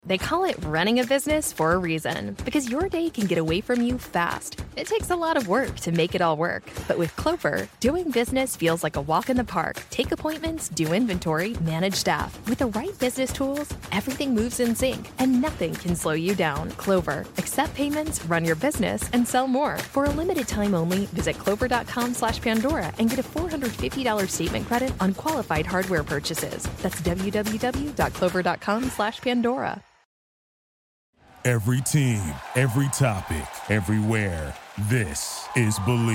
They call it running a business for a reason, because your day can get away from you fast. It takes a lot of work to make it all work. But with Clover, doing business feels like a walk in the park. Take appointments, do inventory, manage staff. With the right business tools, everything moves in sync, and nothing can slow you down. Clover, accept payments, run your business, and sell more. For a limited time only, visit clover.com/Pandora and get a $450 statement credit on qualified hardware purchases. That's www.clover.com/Pandora. Every team, every topic, everywhere. This is Believe.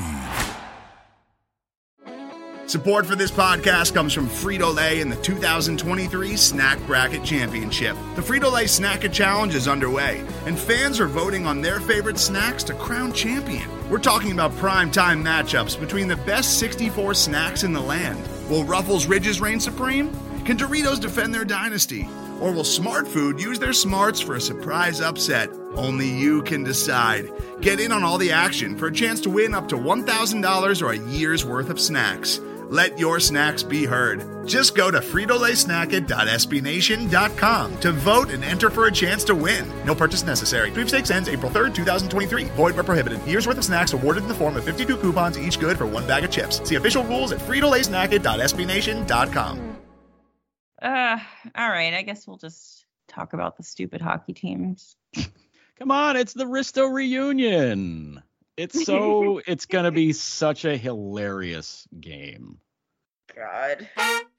Support for this podcast comes from Frito-Lay and the 2023 Snack Bracket Championship. The Frito-Lay Snack-It Challenge is underway, and fans are voting on their favorite snacks to crown champion. We're talking about prime-time matchups between the best 64 snacks in the land. Will Ruffles Ridges reign supreme? Can Doritos defend their dynasty? Or will Smart Food use their smarts for a surprise upset? Only you can decide. Get in on all the action for a chance to win up to $1,000 or a year's worth of snacks. Let your snacks be heard. Just go to fritolaysnacket.sbnation.com to vote and enter for a chance to win. No purchase necessary. Sweepstakes ends April 3rd, 2023. Void where prohibited. Year's worth of snacks awarded in the form of 52 coupons, each good for one bag of chips. See official rules at fritolaysnacket.sbnation.com. All right, I guess we'll just talk about the stupid hockey teams. Come on, it's the Risto reunion. It's gonna be such a hilarious game. God.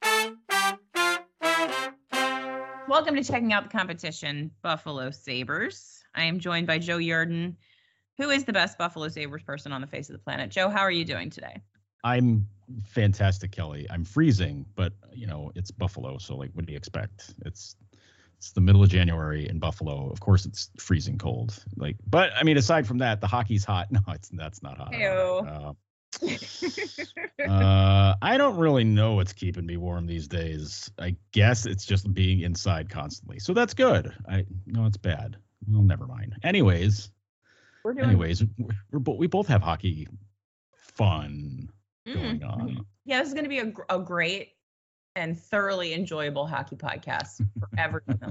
Welcome to Checking Out the Competition, Buffalo Sabres. I am joined by Joe Yerdon, who is the best Buffalo Sabres person on the face of the planet. Joe, how are you doing today? I'm fantastic, Kelly. I'm freezing, but it's Buffalo, so what do you expect? It's the middle of January in Buffalo. Of course, it's freezing cold. But I mean, aside from that, the hockey's hot. No, that's not hot. I don't really know what's keeping me warm these days. I guess it's just being inside constantly. So that's good. It's bad. Well, never mind. Anyways, we both have hockey fun going on. Yeah, this is going to be a great and thoroughly enjoyable hockey podcast for everyone.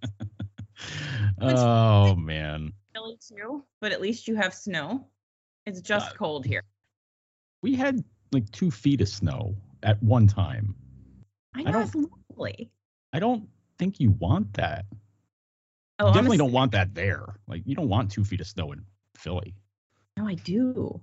Oh man, Chilly too, but at least you have snow. It's just cold here. We had 2 feet of snow at one time. I know, it's lovely. I don't think you want that. Oh, you definitely don't want that there. You don't want 2 feet of snow in Philly. No, I do.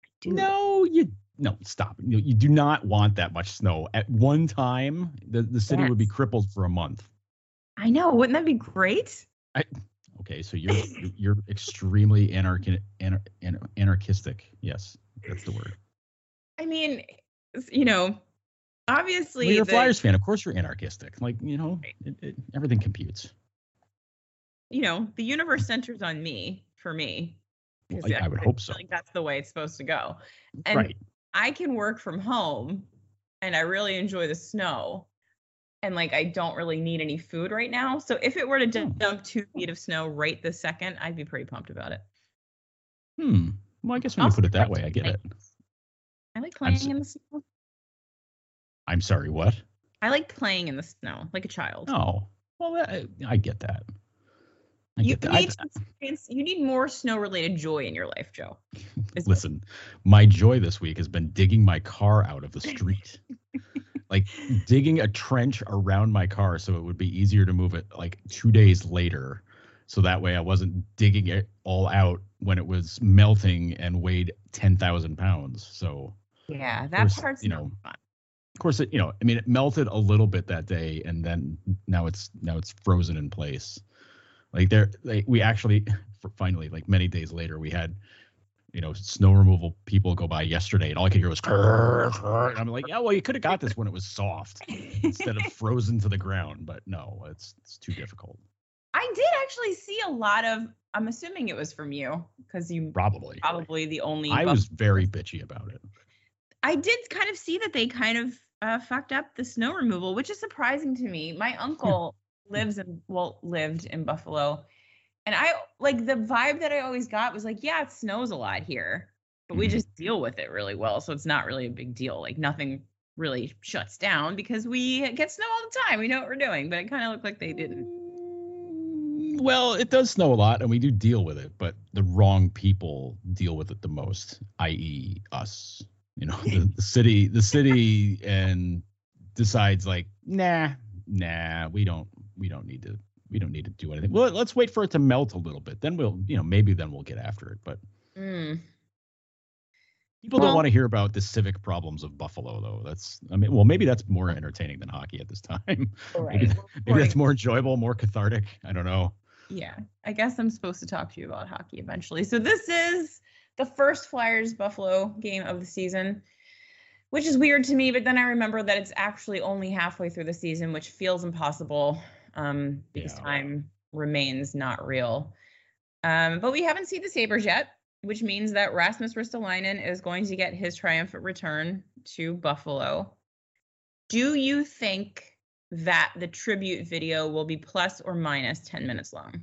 No, stop. You do not want that much snow. At one time, the city would be crippled for a month. I know. Wouldn't that be great? Okay, so you're extremely anarchistic. Yes, that's the word. I mean, obviously. Well, you're a Flyers fan. Of course you're anarchistic. Everything computes. The universe centers on me, for me. I would hope so. That's the way it's supposed to go. And right. I can work from home, and I really enjoy the snow. And I don't really need any food right now. So if it were to dump 2 feet of snow right this second, I'd be pretty pumped about it. Well, I guess when you put it that way, I get it. I like playing in the snow. I'm sorry, what? I like playing in the snow like a child. Oh, well, I get that. You need more snow-related joy in your life, Joe. Listen, my joy this week has been digging my car out of the street. Digging a trench around my car so it would be easier to move it 2 days later. So that way I wasn't digging it all out when it was melting and weighed 10,000 pounds. So yeah, that part's not fun. Of course, it melted a little bit that day, and then now it's frozen in place. We actually finally, many days later, we had, snow removal people go by yesterday, and all I could hear was "Grr, grr." And I'm like, yeah, well, you could have got this when it was soft instead of frozen to the ground, but no, it's too difficult. I did actually see a lot of. I'm assuming it was from you because you probably the only. I was very bitchy about it. I did kind of see that they kind of fucked up the snow removal, which is surprising to me. My uncle lived in Buffalo, and I the vibe that I always got was yeah, it snows a lot here, but we just deal with it really well, so it's not really a big deal. Nothing really shuts down because we get snow all the time. We know what we're doing, but it kind of looked like they didn't. Well, it does snow a lot, and we do deal with it, but the wrong people deal with it the most, i.e., us. You know, the city, and decides like, nah, we don't need to do anything. Well, let's wait for it to melt a little bit, then maybe we'll get after it. But people don't want to hear about the civic problems of Buffalo, though. Maybe that's more entertaining than hockey at this time. Right. maybe that's more enjoyable, more cathartic. I don't know. Yeah, I guess I'm supposed to talk to you about hockey eventually. So this is the first Flyers-Buffalo game of the season, which is weird to me, but then I remember that it's actually only halfway through the season, which feels impossible because time remains not real. But we haven't seen the Sabres yet, which means that Rasmus Ristolainen is going to get his triumphant return to Buffalo. Do you think that the tribute video will be plus or minus 10 minutes long?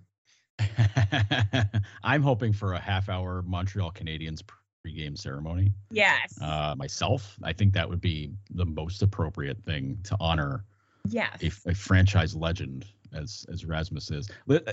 I'm hoping for a half-hour Montreal Canadiens pregame ceremony. Yes. Myself, I think that would be the most appropriate thing to honor. Yes. A franchise legend as Rasmus is.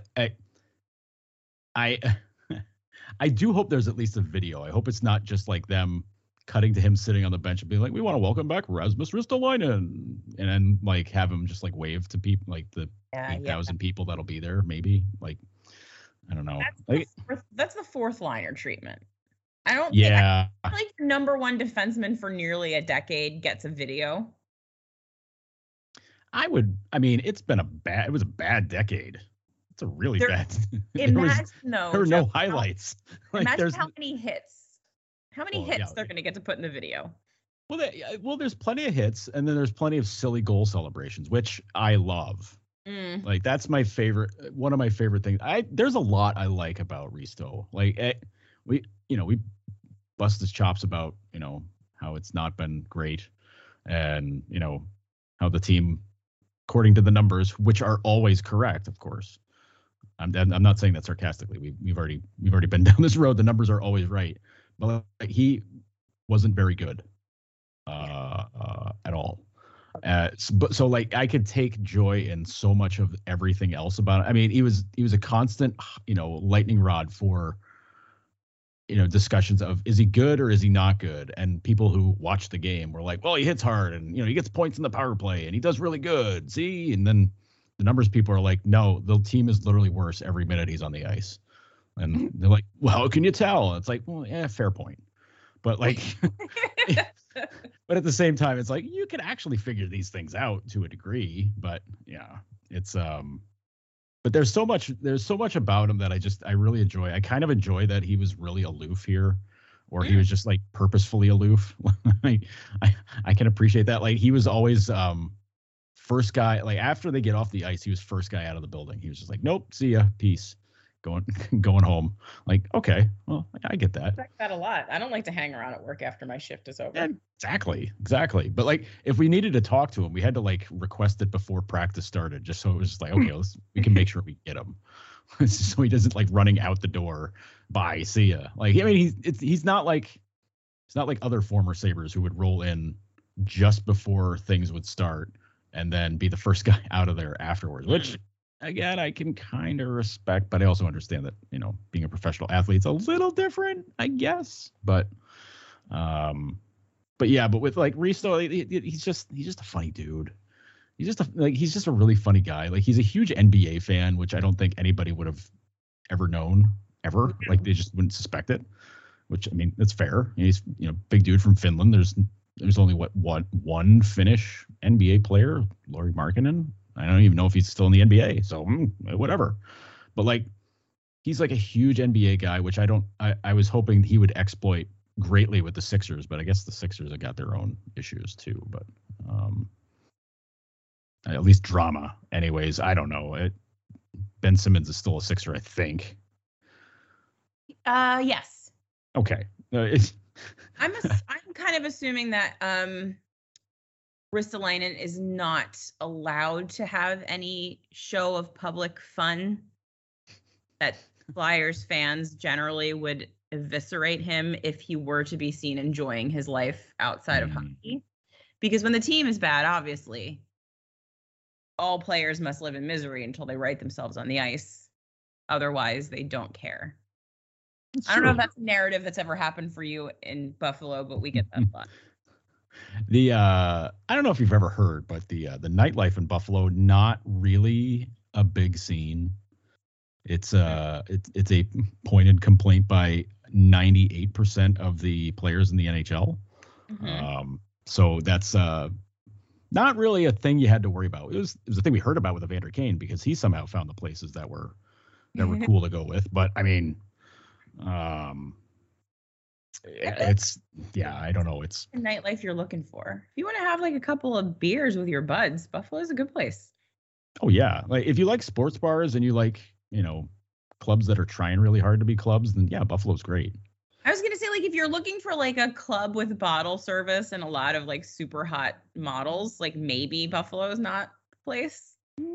I do hope there's at least a video. I hope it's not just like them cutting to him sitting on the bench and being like, "We want to welcome back Rasmus Ristolainen," and then like have him just like wave to people, like the 8,000 people that'll be there. Maybe like, I don't know. That's the fourth liner treatment. I don't. Yeah. I feel like the number one defenseman for nearly a decade gets a video. It was a bad decade. It's a really bad. There were no highlights. Imagine how many hits. How many hits they're going to get to put in the video? Well, there's plenty of hits, and then there's plenty of silly goal celebrations, which I love. Like that's my favorite. One of my favorite things. There's a lot I like about Risto. Like we bust his chops about how it's not been great, and how the team, according to the numbers, which are always correct, of course. I'm not saying that sarcastically. We've already been down this road. The numbers are always right. But he wasn't very good at all. So like I could take joy in so much of everything else about it. I mean, he was a constant, lightning rod for, discussions of, is he good or is he not good? And people who watch the game were like, well, he hits hard and, he gets points in the power play and he does really good. See? And then the numbers people are like, no, the team is literally worse every minute he's on the ice. And they're like, well, how can you tell? It's like, well, yeah, fair point. But like, but at the same time, it's like, you can actually figure these things out to a degree. But yeah, it's, but there's so much about him that I really enjoy. I kind of enjoy that he was really aloof here, or he was just like purposefully aloof. I can appreciate that. Like he was always, first guy, like after they get off the ice, he was first guy out of the building. He was just like, nope, see ya, peace. Going home. Like, okay, well, I get that. I like that a lot. I don't like to hang around at work after my shift is over. Yeah, exactly. But like, if we needed to talk to him, we had to like request it before practice started, just so it was just like, okay, we can make sure we get him, so he doesn't like running out the door. Bye, see ya. Like, I mean, he's not like other former Sabres who would roll in just before things would start and then be the first guy out of there afterwards, which. Again, I can kind of respect, but I also understand that, being a professional athlete's a little different, I guess. But with like Risto, he's just a funny dude. He's just a really funny guy. Like he's a huge NBA fan, which I don't think anybody would have ever known ever. Like they just wouldn't suspect it, which I mean, that's fair. He's, big dude from Finland. There's only one Finnish NBA player, Lauri Markkanen. I don't even know if he's still in the NBA, so whatever. But like, he's like a huge NBA guy, which I was hoping he would exploit greatly with the Sixers, but I guess the Sixers have got their own issues too. But at least drama, anyways. I don't know. Ben Simmons is still a Sixer, I think. Yes. Okay. I'm kind of assuming that Ristolainen is not allowed to have any show of public fun, that Flyers fans generally would eviscerate him if he were to be seen enjoying his life outside of hockey. Because when the team is bad, obviously, all players must live in misery until they right themselves on the ice. otherwise they don't care. I don't know if that's a narrative that's ever happened for you in Buffalo, but we get that a lot. I don't know if you've ever heard, but the nightlife in Buffalo, not really a big scene. It's a pointed complaint by 98% of the players in the NHL. Mm-hmm. So that's not really a thing you had to worry about. It was a thing we heard about with Evander Kane because he somehow found the places that were cool to go with. But I mean, I don't know. It's the nightlife you're looking for. If you want to have like a couple of beers with your buds, Buffalo's a good place. Oh yeah, like if you like sports bars and you like, clubs that are trying really hard to be clubs, then yeah, Buffalo's great. I was gonna say, like, if you're looking for like a club with bottle service and a lot of like super hot models, like maybe Buffalo's not the place.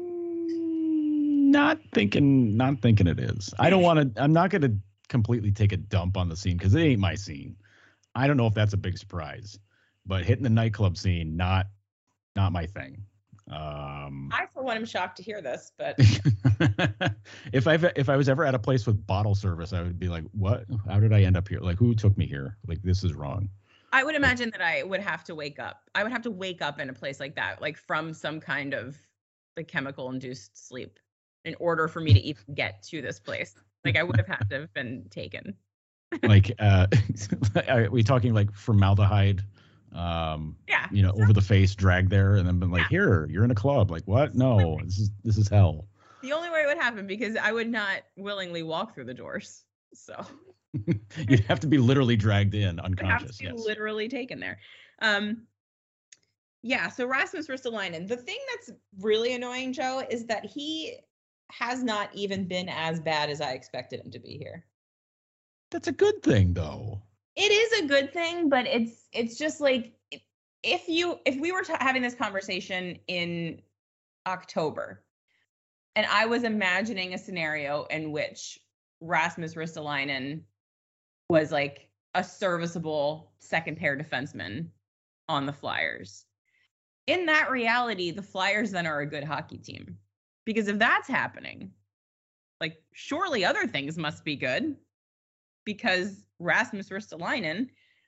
Not thinking it is. I'm not gonna completely take a dump on the scene because it ain't my scene. I don't know if that's a big surprise, but hitting the nightclub scene, not my thing. I for one am shocked to hear this, but if I was ever at a place with bottle service, I would be like, what? How did I end up here? Like, who took me here? Like, this is wrong. I would imagine that I would have to wake up. I would have to wake up in a place like that, like from some kind of like chemical induced sleep in order for me to even get to this place. Like I would have had to have been taken. Like, are we talking like formaldehyde? Over the face, dragged there, and then been like, here, you're in a club. Like, what? No, this is hell. The only way it would happen, because I would not willingly walk through the doors. So you'd have to be literally dragged in, unconscious. Have to be literally taken there. So Rasmus Ristolainen, the thing that's really annoying, Joe, is that he has not even been as bad as I expected him to be here. That's a good thing, though. It is a good thing, but it's just like if we were having this conversation in October and I was imagining a scenario in which Rasmus Ristolainen was like a serviceable second pair defenseman on the Flyers. In that reality, the Flyers then are a good hockey team, because if that's happening, like surely other things must be good, because Rasmus Ristolainen,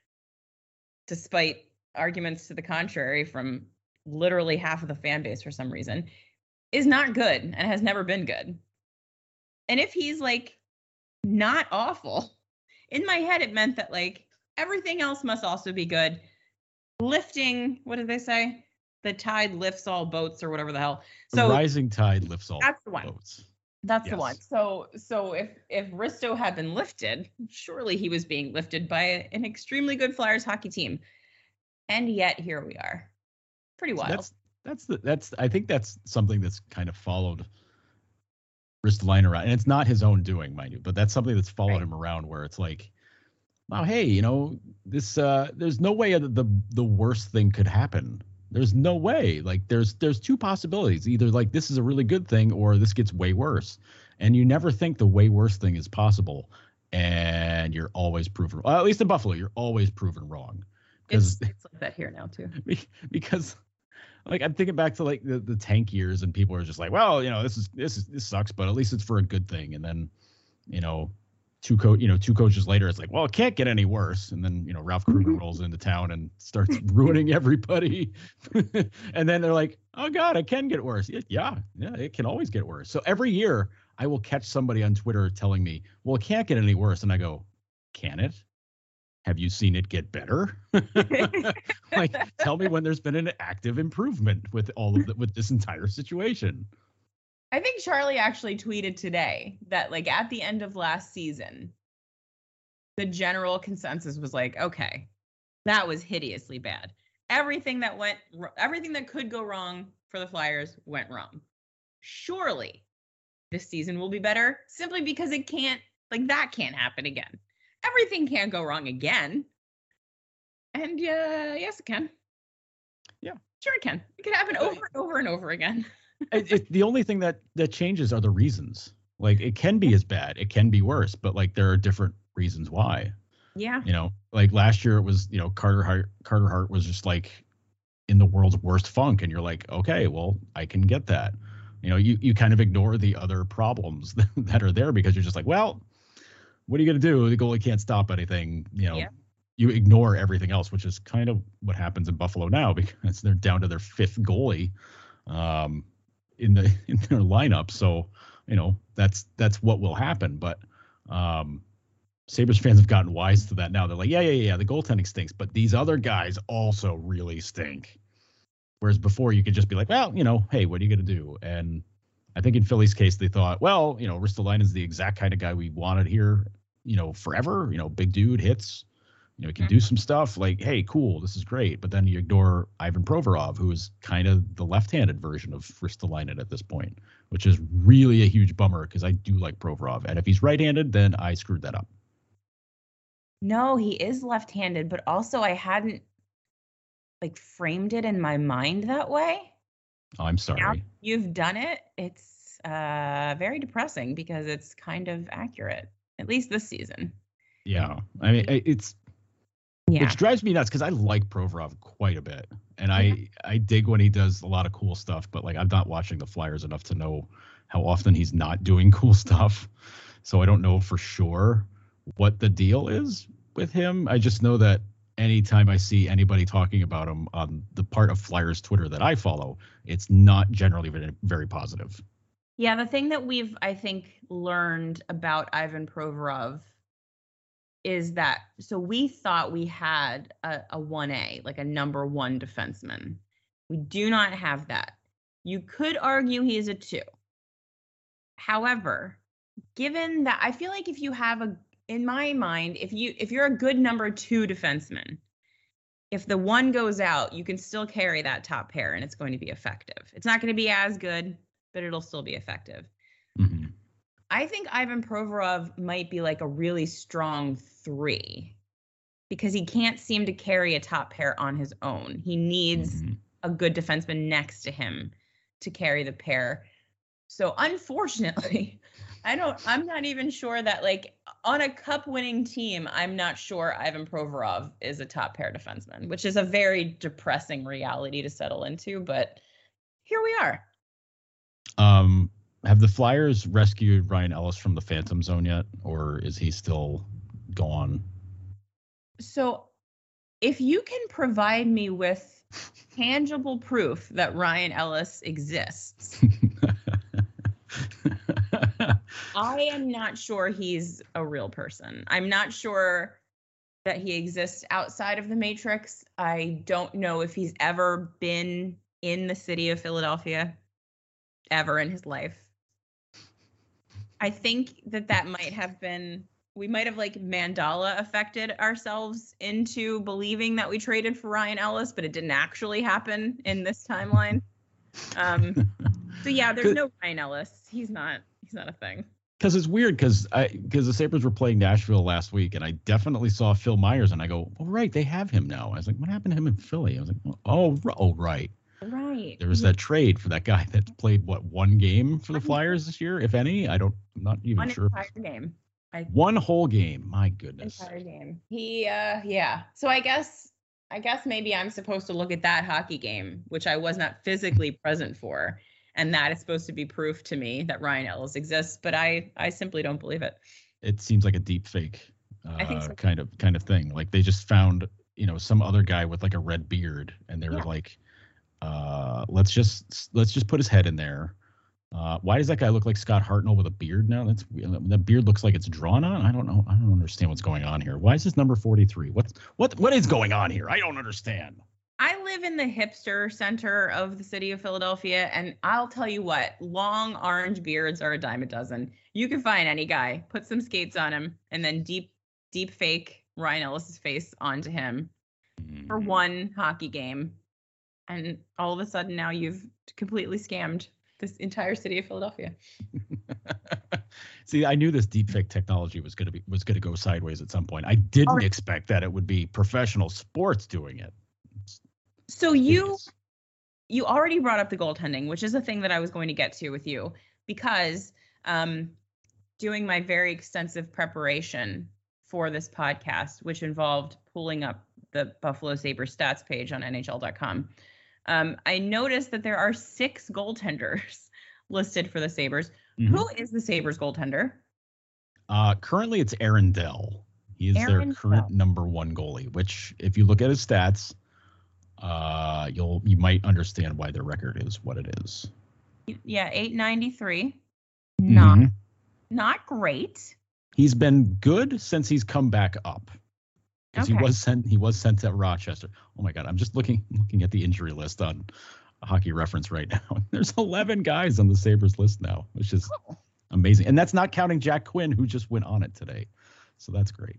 despite arguments to the contrary from literally half of the fan base for some reason, is not good and has never been good. And if he's like not awful, in my head it meant that like everything else must also be good. Lifting, what did they say? The tide lifts all boats, or whatever the hell. So the rising tide lifts all boats. That's the one. So if Risto had been lifted, surely he was being lifted by an extremely good Flyers hockey team. And yet here we are. Pretty wild. I think that's something that's kind of followed Ristolainen around. And it's not his own doing, mind you, but that's something that's followed him around, where it's like, wow, hey, this there's no way the worst thing could happen. There's no way. Like there's two possibilities. Either like this is a really good thing, or this gets way worse. And you never think the way worse thing is possible. And you're always proven, at least in Buffalo, you're always proven wrong. It's like that here now too. Because like I'm thinking back to like the tank years, and people are just like, well, this sucks, but at least it's for a good thing. And then, two coaches later, it's like, well, it can't get any worse. And then, Ralph Kruger rolls into town and starts ruining everybody. And then they're like, oh God, it can get worse. Yeah, it can always get worse. So every year I will catch somebody on Twitter telling me, well, it can't get any worse. And I go, can it? Have you seen it get better? Like, tell me when there's been an active improvement with with this entire situation. I think Charlie actually tweeted today that like at the end of last season, the general consensus was like, okay, that was hideously bad. Everything that could go wrong for the Flyers went wrong. Surely this season will be better, simply because it can't, like that can't happen again. Everything can't go wrong again. And yes, it can. Yeah, sure it can. It could happen over and over and over again. The only thing that changes are the reasons. Like it can be as bad, it can be worse, but like there are different reasons why. Yeah. Like last year it was, Carter Hart was just like in the world's worst funk, and you're like, okay, well, I can get that. you kind of ignore the other problems that are there because you're just like, well, what are you going to do? The goalie can't stop anything. You ignore everything else, which is kind of what happens in Buffalo now because they're down to their fifth goalie in their lineup. So, that's what will happen. But Sabres fans have gotten wise to that now. They're like, yeah, the goaltending stinks, but these other guys also really stink. Whereas before you could just be like, well, hey, what are you going to do? And I think in Philly's case, they thought, well, Ristolainen's the exact kind of guy we wanted here, forever, big dude, hits, he can do some stuff like, hey, cool, this is great. But then you ignore Ivan Provorov, who is kind of the left-handed version of Ristolainen at this point, which is really a huge bummer because I do like Provorov. And if he's right-handed, then I screwed that up. No, he is left-handed, but also I hadn't framed it in my mind that way. Oh, I'm sorry. Now you've done it. It's very depressing because it's kind of accurate, at least this season. Yeah. I mean, which drives me nuts because I like Provorov quite a bit. And I dig when he does a lot of cool stuff, but I'm not watching the Flyers enough to know how often he's not doing cool stuff. So I don't know for sure what the deal is with him. I just know that anytime I see anybody talking about him on the part of Flyers Twitter that I follow, it's not generally very positive. Yeah, the thing that we've, I think, learned about Ivan Provorov is that, so we thought we had a 1A, like a number one defenseman. We do not have that. You could argue he is a 2. However, given that, I feel like if you have in my mind, if you're a good number 2 defenseman, if the one goes out, you can still carry that top pair and it's going to be effective. It's not going to be as good, but it'll still be effective. Mm-hmm. I think Ivan Provorov might be a really strong 3 because he can't seem to carry a top pair on his own. He needs a good defenseman next to him to carry the pair. So unfortunately, I'm not even sure that on a cup winning team, I'm not sure Ivan Provorov is a top pair defenseman, which is a very depressing reality to settle into, but here we are. Have the Flyers rescued Ryan Ellis from the Phantom Zone yet, or is he still gone? So if you can provide me with tangible proof that Ryan Ellis exists, I am not sure he's a real person. I'm not sure that he exists outside of the Matrix. I don't know if he's ever been in the city of Philadelphia ever in his life. I think that might have been, we might have Mandela affected ourselves into believing that we traded for Ryan Ellis, but it didn't actually happen in this timeline. So yeah, there's no Ryan Ellis. He's not a thing. Because it's weird because the Sabres were playing Nashville last week and I definitely saw Phil Myers and I go, oh, right, they have him now. I was like, what happened to him in Philly? I was like, oh, right. Right. There was that trade for that guy that played one game for the Flyers this year, if any. I'm not even sure. One entire game. One whole game. My goodness. Entire game. He, yeah. So I guess maybe I'm supposed to look at that hockey game, which I was not physically present for, and that is supposed to be proof to me that Ryan Ellis exists, but I simply don't believe it. It seems like a deep fake I think so. kind of thing. Like they just found, some other guy with a red beard and they were like, let's just put his head in there. Why does that guy look like Scott Hartnell with a beard now? That beard looks like it's drawn on. I don't know. I don't understand what's going on here. Why is this number 43? What is going on here? I don't understand. I live in the hipster center of the city of Philadelphia, and I'll tell you what, long orange beards are a dime a dozen. You can find any guy, put some skates on him, and then deep fake Ryan Ellis's face onto him for one hockey game. And all of a sudden now you've completely scammed this entire city of Philadelphia. See, I knew this deepfake technology was going to go sideways at some point. I didn't expect that it would be professional sports doing it. So you already brought up the goaltending, which is a thing that I was going to get to with you, because doing my very extensive preparation for this podcast, which involved pulling up the Buffalo Sabres stats page on NHL.com. I noticed that there are 6 goaltenders listed for the Sabres. Mhm. Who is the Sabres goaltender? Currently, it's Aaron Dell. He is Aaron their current Dell. number one goalie. Which, if you look at his stats, you might understand why their record is what it is. Yeah, 893. Mhm. Not great. He's been good since he's come back up. Because Okay. he was sent to Rochester. Oh my God, I'm just looking at the injury list on Hockey Reference right now. There's 11 guys on the Sabres list now, which is amazing. And that's not counting Jack Quinn, who just went on it today. So that's great.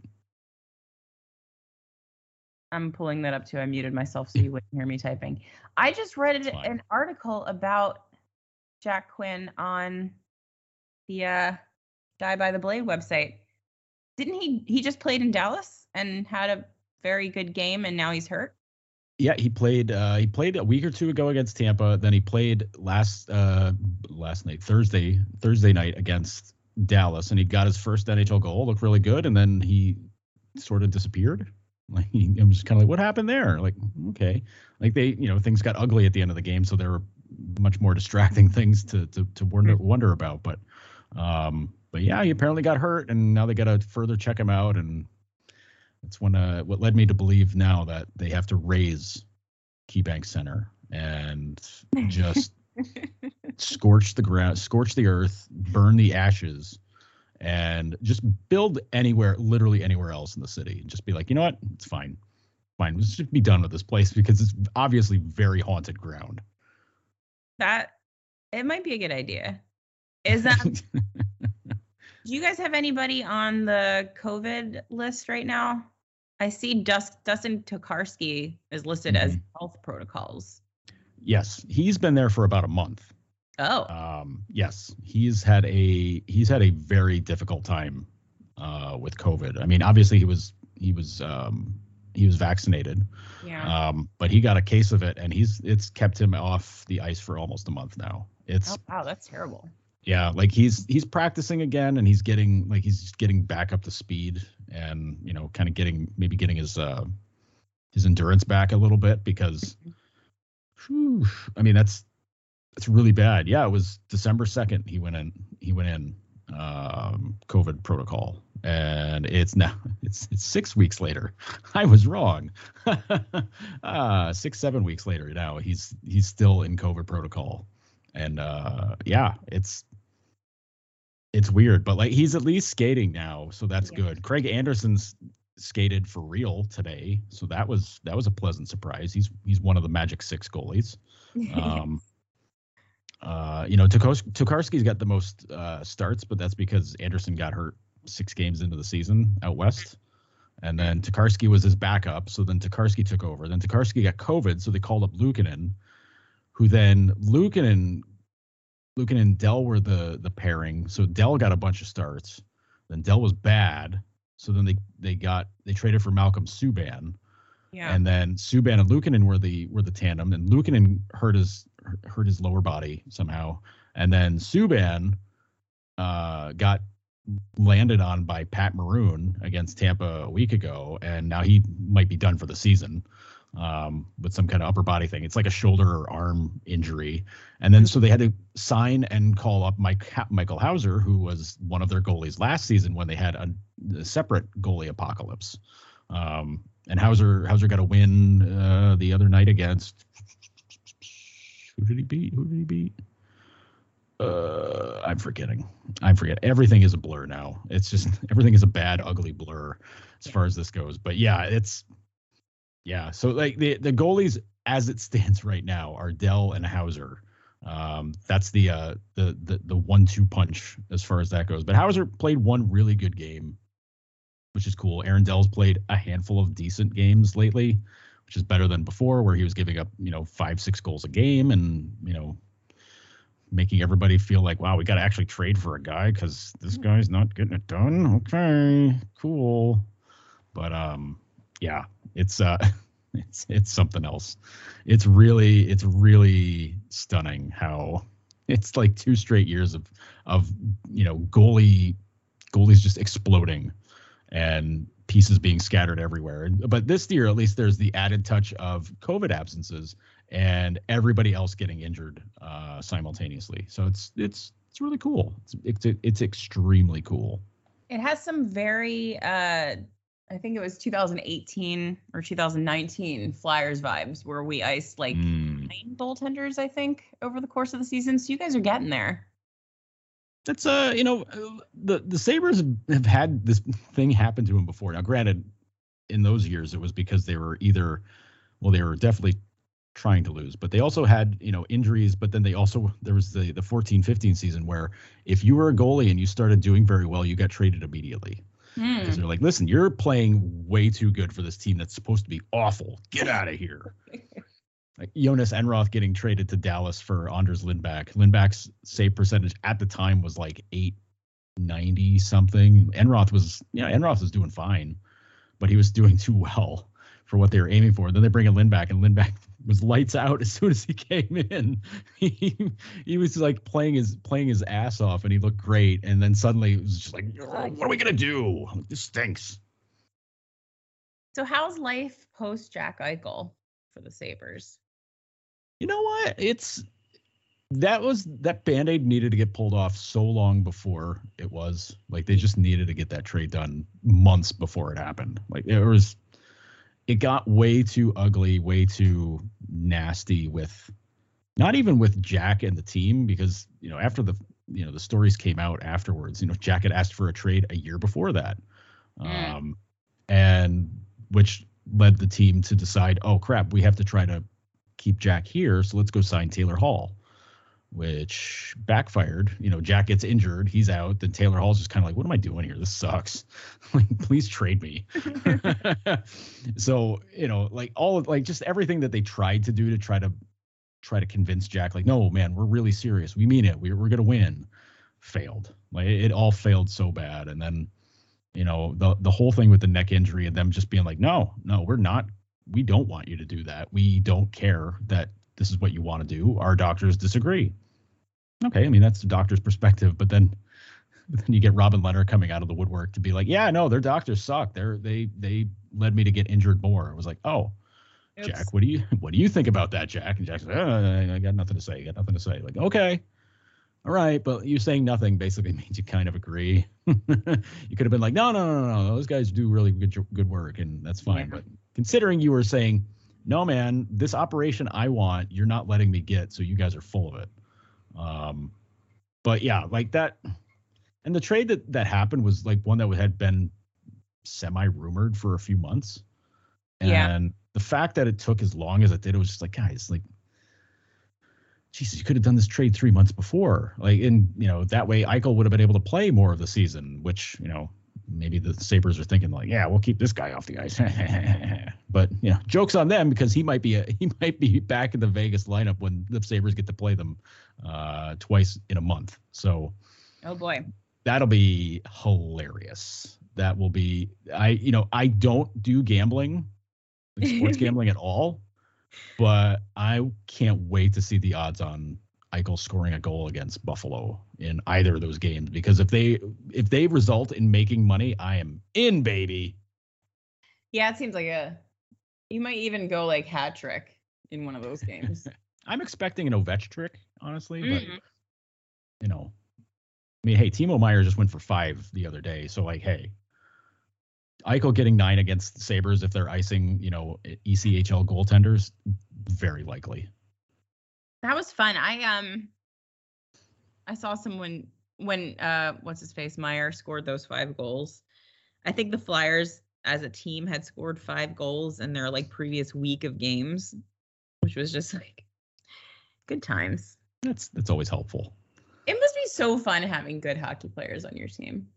I'm pulling that up too. I muted myself so you wouldn't hear me typing. I just read It's fine. an article about Jack Quinn on the Die by the Blade website. Didn't he just played in Dallas and had a very good game and now he's hurt? Yeah, he played a week or two ago against Tampa. Then he played last night, Thursday night against Dallas, and he got his first NHL goal. Looked really good, and then he sort of disappeared. Like I was just kind of like, what happened there? Like, okay, like things got ugly at the end of the game, so there were much more distracting things to wonder about. But yeah, he apparently got hurt, and now they got to further check him out, and that's what led me to believe now that they have to raise KeyBank Center and just scorch the ground, scorch the earth, burn the ashes, and just build literally anywhere else in the city. And just be like, you know what? It's fine. Let's just be done with this place because it's obviously very haunted ground. That it might be a good idea. Is that do you guys have anybody on the COVID list right now? I see Dustin Tokarski is listed as health protocols. Yes, he's been there for about a month. Oh. Yes, he's had a very difficult time with COVID. I mean, obviously he was vaccinated. Yeah. But he got a case of it, and it's kept him off the ice for almost a month now. Oh wow, that's terrible. Yeah, like he's practicing again, and he's getting back up to speed, and kind of getting his endurance back a little bit because, I mean that's really bad. Yeah, it was December 2nd he went in COVID protocol, and it's 6 weeks later. I was wrong. 6-7 weeks later now he's still in COVID protocol, and yeah, it's weird, but like he's at least skating now, so that's good. Craig Anderson's skated for real today, so that was a pleasant surprise. He's one of the Magic 6 goalies. Tokarski's got the most starts, but that's because Anderson got hurt 6 games into the season out west, and then Tokarski was his backup. So then Tokarski took over. Then Tokarski got COVID, so they called up Luukkonen, who then Luukkonen and Dell were the pairing. So Dell got a bunch of starts. Then Dell was bad. So then they traded for Malcolm Subban. Yeah. And then Subban and Luukkonen were the tandem. And Luukkonen hurt his lower body somehow. And then Subban got landed on by Pat Maroon against Tampa a week ago, and now he might be done for the season. With some kind of upper body thing. It's like a shoulder or arm injury. And then so they had to sign and call up Michael Hauser, who was one of their goalies last season when they had a separate goalie apocalypse. And Hauser got a win the other night against who did he beat? I'm forgetting. Everything is a blur now. It's just everything is a bad, ugly blur as far as this goes. But yeah, so like the goalies as it stands right now are Dell and Hauser. That's the 1-2 punch as far as that goes. But Hauser played one really good game, which is cool. Aaron Dell's played a handful of decent games lately, which is better than before, where he was giving up 5-6 goals a game and making everybody feel like, wow, we got to actually trade for a guy because this guy's not getting it done. Okay, cool. But yeah, it's something else. It's really stunning how it's like 2 straight years of goalies just exploding and pieces being scattered everywhere. But this year, at least, there's the added touch of COVID absences, and everybody else getting injured simultaneously. So it's really cool. It's extremely cool. It has some very I think it was 2018 or 2019 Flyers vibes where we iced like 9 goaltenders, I think, over the course of the season. So you guys are getting there. That's the Sabres have had this thing happen to them before. Now, granted, in those years it was because they were definitely trying to lose, but they also had injuries. But then there was the 14-15 season where if you were a goalie and you started doing very well, you got traded immediately. Because they're like, listen, you're playing way too good for this team that's supposed to be awful. Get out of here. Like Jonas Enroth getting traded to Dallas for Anders Lindback. Lindback's save percentage at the time was like 890 something. Enroth was doing fine, but he was doing too well for what they were aiming for. And then they bring in Lindback, and Lindback was lights out as soon as he came in. He was like playing his ass off, and he looked great. And then suddenly it was just like, what are we gonna do? This stinks. So how's life post Jack Eichel for the Sabres? You know what? That Band-Aid needed to get pulled off so long before it was. Like, they just needed to get that trade done months before it happened. Like, it got way too ugly, way too nasty with not even with Jack and the team, because, after the stories came out afterwards, Jack had asked for a trade a year before that. And which led the team to decide, oh crap, we have to try to keep Jack here. So let's go sign Taylor Hall, which backfired. Jack gets injured, he's out. Then Taylor Hall's just kind of like, what am I doing here? This sucks. Like, please trade me. So, just everything that they tried to do to try to convince Jack, like, no, man, we're really serious. We mean it. We're going to win. Failed. Like, it all failed so bad. And then, the whole thing with the neck injury and them just being like, no, we're not. We don't want you to do that. We don't care that this is what you want to do. Our doctors disagree. Okay, I mean, that's the doctor's perspective, but then you get Robin Lehner coming out of the woodwork to be like, yeah, no, their doctors suck. They led me to get injured more. It was like, oh, oops. Jack, what do you think about that, Jack? And Jack's like, I got nothing to say. Like, okay, all right, but you saying nothing basically means you kind of agree. You could have been like, no, those guys do really good work, and that's fine. Yeah. But considering you were saying, no, man, this operation I want, you're not letting me get, so you guys are full of it. But yeah, like that. And the trade that happened was like one that had been semi-rumored for a few months. And the fact that it took as long as it did, it was just like, guys, like, Jesus, you could have done this trade 3 months before. Like, and, that way Eichel would have been able to play more of the season, which, maybe the Sabres are thinking like, yeah, we'll keep this guy off the ice. But, joke's on them, because he might be back in the Vegas lineup when the Sabres get to play them twice in a month. So, oh boy, that'll be hilarious. That will be, I don't do gambling, like sports gambling at all, but I can't wait to see the odds on Eichel scoring a goal against Buffalo in either of those games, because if they result in making money, I am in, baby. Yeah, it seems like you might even go like hat trick in one of those games. I'm expecting an Ovechkin trick, honestly, but I mean, hey, Timo Meier just went for 5 the other day, so like, hey, Eichel getting 9 against the Sabres if they're icing, ECHL goaltenders, very likely. That was fun. I saw someone when what's his face Meyer scored those 5 goals. I think the Flyers as a team had scored 5 goals in their like previous week of games, which was just like good times. That's always helpful. It must be so fun having good hockey players on your team.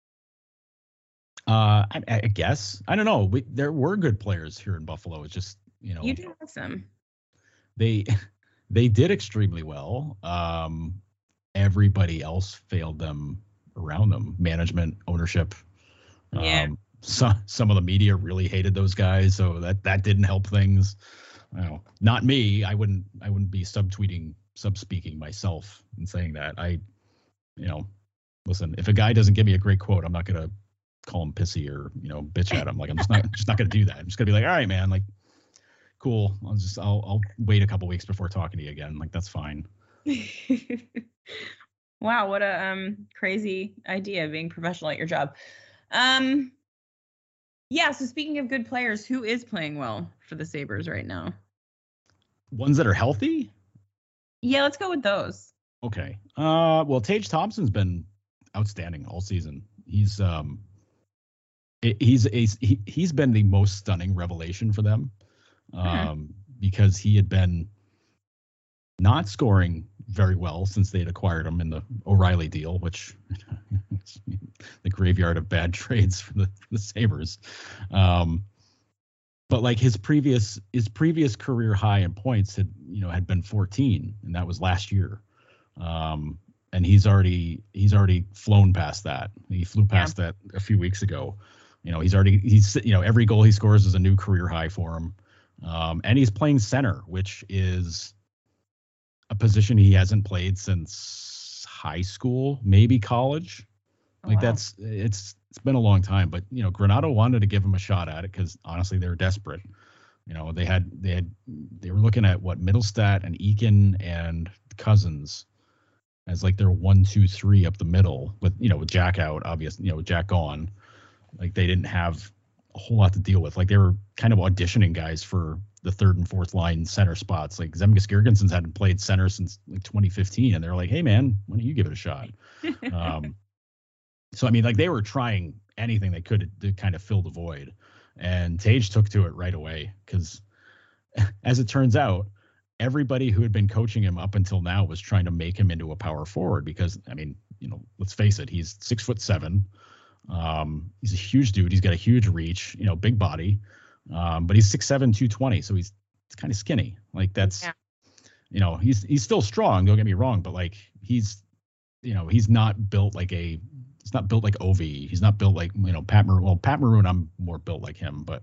I guess. I don't know. There were good players here in Buffalo. It's just, you do have some. They did extremely well. Everybody else failed them around them. Management, ownership. Yeah. Some of the media really hated those guys, so that didn't help things. Not me. I wouldn't be subspeaking myself and saying that. Listen, if a guy doesn't give me a great quote, I'm not gonna call him pissy or bitch at him. Like, I'm just not gonna do that. I'm just gonna be like, all right, man, like, cool. I'll wait a couple weeks before talking to you again. Like, that's fine. Wow, what a crazy idea, being professional at your job. Yeah, so speaking of good players, who is playing well for the Sabres right now? Ones that are healthy? Yeah, let's go with those. Okay. Well, Tage Thompson's been outstanding all season. He's been the most stunning revelation for them, because he had been not scoring very well since they had acquired him in the O'Reilly deal, which the graveyard of bad trades for the Sabres. But like his previous career high in points had been 14, and that was last year. And he's already flown past that. He flew past that a few weeks ago. He's every goal he scores is a new career high for him. And he's playing center, which is a position he hasn't played since high school, maybe college. It's been a long time, but Granato wanted to give him a shot at it because honestly they were desperate. They were looking at what Middlestat and Eakin and Cousins as like their 1, 2, 3 up the middle with Jack out, obviously, with Jack gone. Like they didn't have a whole lot to deal with. Like they were kind of auditioning guys for the third and fourth line center spots. Like Zemgus Girgensons hadn't played center since like 2015, and they're like, "Hey man, why don't you give it a shot?" So I mean, like they were trying anything they could to kind of fill the void, and Tage took to it right away because, as it turns out, everybody who had been coaching him up until now was trying to make him into a power forward because, I mean, let's face it, he's 6'7". He's a huge dude. He's got a huge reach, big body. But he's 6'7", 220. So he's kind of skinny. Like that's, he's still strong. Don't get me wrong. But like, he's not built like Ovi. He's not built like, Pat Maroon. Well, Pat Maroon, I'm more built like him, but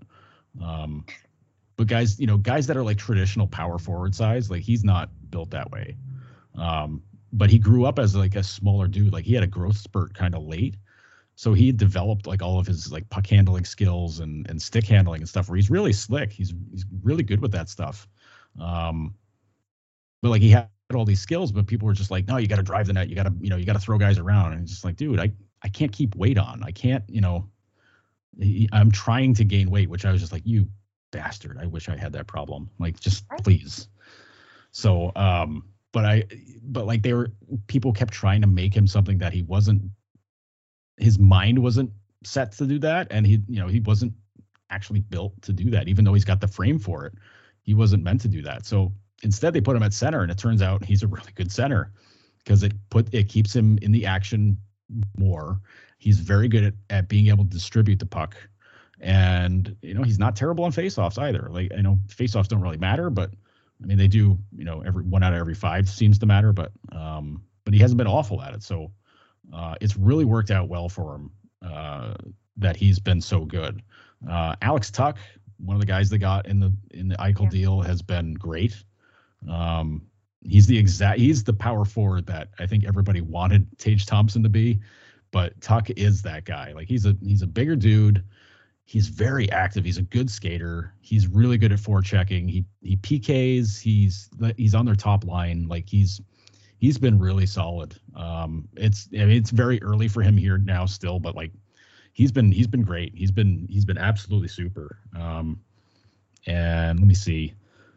guys, guys that are like traditional power forward size, like he's not built that way. But he grew up as like a smaller dude. Like he had a growth spurt kind of late. So he developed like all of his like puck handling skills and stick handling and stuff where he's really slick. He's really good with that stuff. But like he had all these skills, but people were just like, no, you got to drive the net. You got to throw guys around. And it's just like, dude, I can't keep weight on. I can't, I'm trying to gain weight, which I was just like, you bastard. I wish I had that problem. Like, just please. So, but like people kept trying to make him something that he wasn't. His mind wasn't set to do that, and he wasn't actually built to do that. Even though he's got the frame for it, he wasn't meant to do that. So instead, they put him at center, and it turns out he's a really good center because it keeps him in the action more. He's very good at being able to distribute the puck, and he's not terrible on faceoffs either. Like I know faceoffs don't really matter, but I mean they do. Every 1 out of every 5 seems to matter, but he hasn't been awful at it. So. It's really worked out well for him that he's been so good. Alex Tuch, one of the guys they got in the Eichel deal, has been great. He's the power forward that I think everybody wanted Tage Thompson to be, but Tuch is that guy. Like he's a bigger dude. He's very active. He's a good skater. He's really good at forechecking. He PKs. He's on their top line. Like he's been really solid. It's very early for him here now still, but like he's been great. He's been absolutely super. And let me see.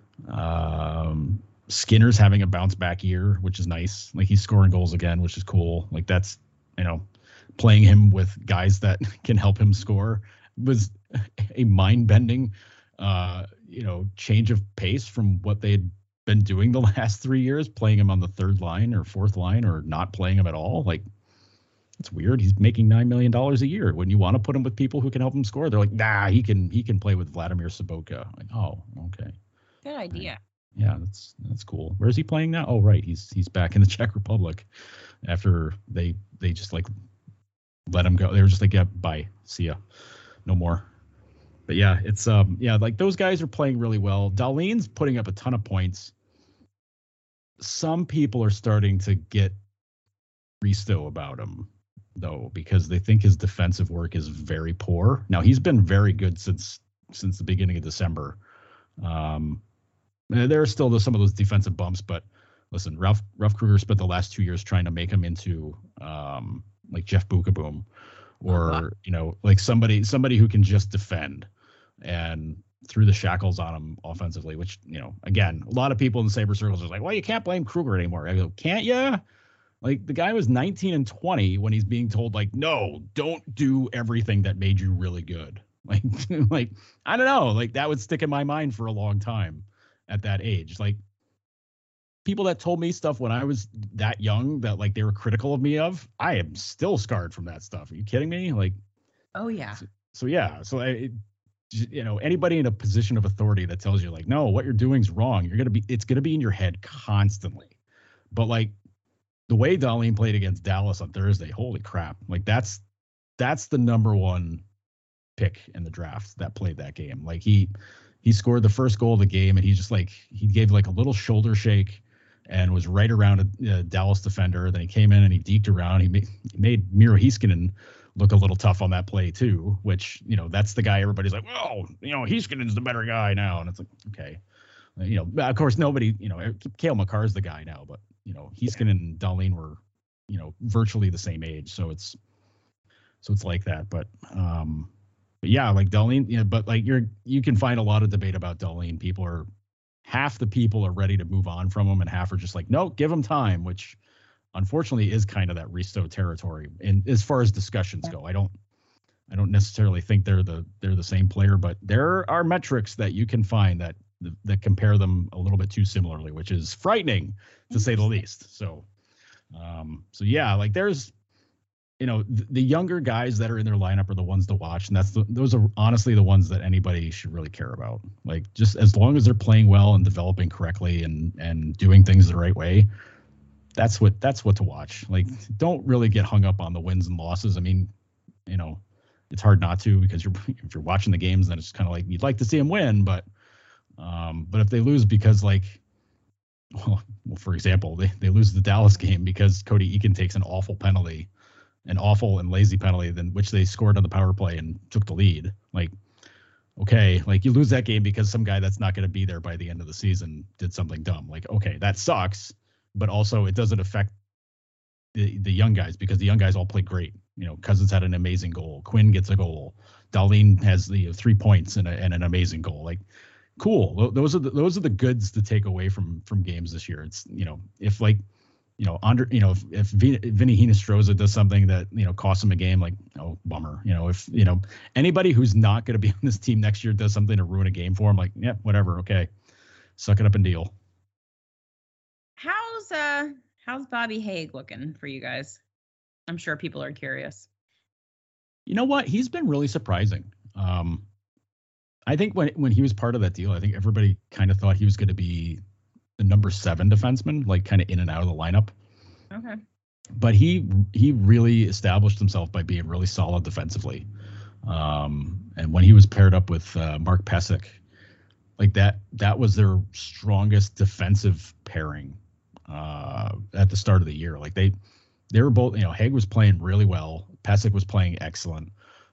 Skinner's having a bounce back year, which is nice. Like he's scoring goals again, which is cool. Like that's, playing him with guys that can help him score was a mind bending, change of pace from what they'd been doing the last 3 years, playing him on the third line or fourth line or not playing him at all. Like it's weird. He's making $9 million a year. When you want to put him with people who can help him score, they're like, nah, he can play with Vladimir Sobotka. Like, oh, okay. Good idea. Yeah, that's cool. Where is he playing now? Oh, right. He's back in the Czech Republic after they just like let him go. They were just like, yeah, bye. See ya. No more. But yeah, it's like those guys are playing really well. Dahlin's putting up a ton of points. Some people are starting to get Risto about him, though, because they think his defensive work is very poor. Now, he's been very good since the beginning of December. There are still some of those defensive bumps, but listen, Ralph Krueger spent the last 2 years trying to make him into like Jeff Bukaboom, or like somebody who can just defend, and threw the shackles on him offensively. Which again, a lot of people in the Sabre circles are like, well, you can't blame Krueger anymore. I go, can't you? Like, the guy was 19 and 20 when he's being told, like, no, don't do everything that made you really good. Like, like, I don't know, like, that would stick in my mind for a long time at that age. Like, people that told me stuff when I was that young that, like, they were critical of me of, I am still scarred from that stuff. Are you kidding me? Like, oh yeah. So anybody in a position of authority that tells you, like, no, what you're doing is wrong, it's going to be in your head constantly. But, like, the way Dahlin played against Dallas on Thursday, holy crap. Like, that's the number one pick in the draft that played that game. Like, he scored the first goal of the game, and he gave like a little shoulder shake and was right around a Dallas defender. Then he came in and he deked around. He made Miro Heiskanen look a little tough on that play too, which, that's the guy everybody's like, well, Heiskanen's the better guy now. And it's like, okay. Of course, nobody, Cale Makar's the guy now, but, Heiskanen and Dahlin were, virtually the same age. So it's like that. But yeah, like Dahlin, but like you can find a lot of debate about Dahlin. Half the people are ready to move on from him, and half are just like, no, give him time, which unfortunately is kind of that Risto territory. And as far as discussions go, I don't necessarily think they're the same player, but there are metrics that you can find that compare them a little bit too similarly, which is frightening to say the least. So yeah, like there's, the younger guys that are in their lineup are the ones to watch. And those are honestly the ones that anybody should really care about. Like, just as long as they're playing well and developing correctly and doing things the right way, that's what to watch. Like, don't really get hung up on the wins and losses. I mean, it's hard not to, because if you're watching the games, then it's kind of like you'd like to see them win, but if they lose because, like, well, for example, they lose the Dallas game because Cody Eakin takes an awful and lazy penalty, then which they scored on the power play and took the lead. Like, okay, like, you lose that game because some guy that's not going to be there by the end of the season did something dumb. Like, okay, that sucks, but also it doesn't affect the young guys, because the young guys all play great. Cousins had an amazing goal. Quinn gets a goal. Dahlin has the 3 points and an amazing goal. Like, cool. Those are the goods to take away from games this year. It's, if like, if Vinny Hinostroza does something that, costs him a game, like, oh, bummer. If, anybody who's not going to be on this team next year does something to ruin a game for him, like, yeah, whatever. Okay. Suck it up and deal. How's Bobby Haig looking for you guys? I'm sure people are curious. You know what? He's been really surprising. I think when he was part of that deal, I think everybody kind of thought he was going to be the number 7 defenseman, like, kind of in and out of the lineup. Okay. But he really established himself by being really solid defensively. And when he was paired up with Mark Pysyk, like, that was their strongest defensive pairing at the start of the year. Like, they were both, Haig was playing really well. Pysyk was playing excellent.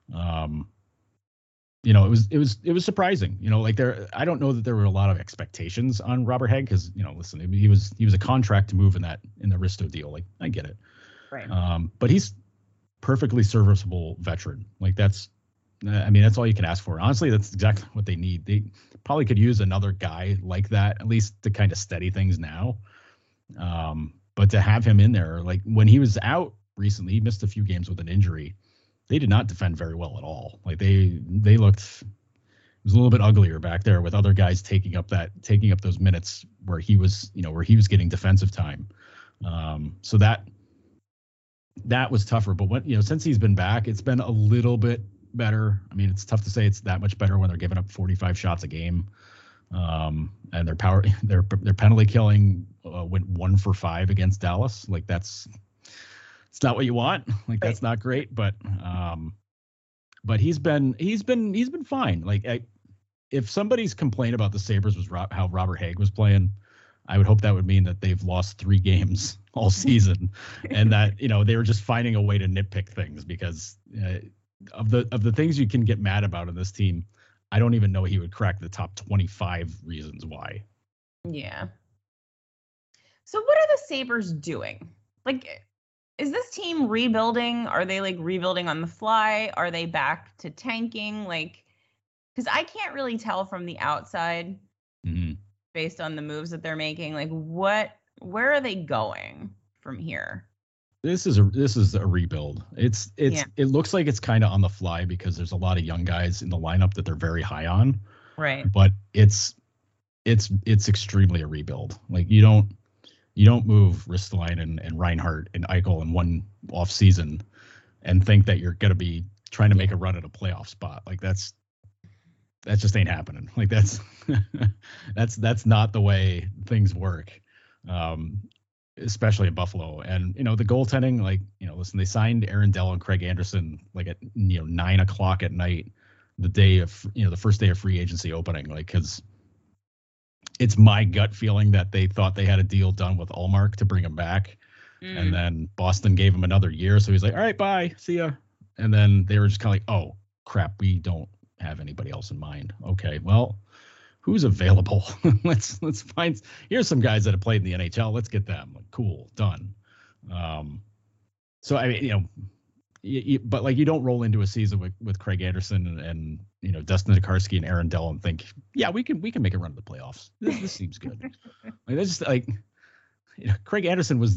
It was surprising, like, I don't know that there were a lot of expectations on Robert Haig, because, listen, he was a contract to move in the Risto deal. Like, I get it. Right. But he's perfectly serviceable veteran. Like, that's all you can ask for. Honestly, that's exactly what they need. They probably could use another guy like that, at least to kind of steady things now. But to have him in there, like, when he was out recently, he missed a few games with an injury. They did not defend very well at all. Like, they looked, it was a little bit uglier back there with other guys taking up those minutes where he was getting defensive time. So that was tougher. But since he's been back, it's been a little bit better. I mean, it's tough to say it's that much better when they're giving up 45 shots a game. And their penalty killing went 1 for 5 against Dallas. Like, it's not what you want. Like, that's not great, but he's been fine. Like, if somebody's complaint about the Sabres was how Robert Haig was playing, I would hope that would mean that they've lost 3 games all season, and that, they were just finding a way to nitpick things, because of the things you can get mad about in this team, I don't even know he would crack the top 25 reasons why. Yeah. So what are the Sabres doing? Like, is this team rebuilding? Are they like rebuilding on the fly? Are they back to tanking? Like, because I can't really tell from the outside based on the moves that they're making. Like, where are they going from here? This is a rebuild. It looks like it's kind of on the fly because there's a lot of young guys in the lineup that they're very high on. Right. But it's extremely a rebuild. Like you don't move Ristolainen and Reinhart and Eichel in one off season and think that you're going to be trying to make a run at a playoff spot. Like that just ain't happening. Like that's not the way things work. Especially in Buffalo. And, the goaltending, like, listen, they signed Aaron Dell and Craig Anderson like at, 9:00 at night, the day of, the first day of free agency opening, like, cause it's my gut feeling that they thought they had a deal done with Ullmark to bring him back. And then Boston gave him another year. So he's like, all right, bye, see ya. And then they were just kind of like, oh crap, we don't have anybody else in mind. Okay, well, who's available? let's find. Here's some guys that have played in the NHL. Let's get them. Like, cool, done. So I mean, but like you don't roll into a season with Craig Anderson and Dustin Tokarski and Aaron Dell and think, yeah, we can make a run to the playoffs. This seems good. Like that's just like, Craig Anderson was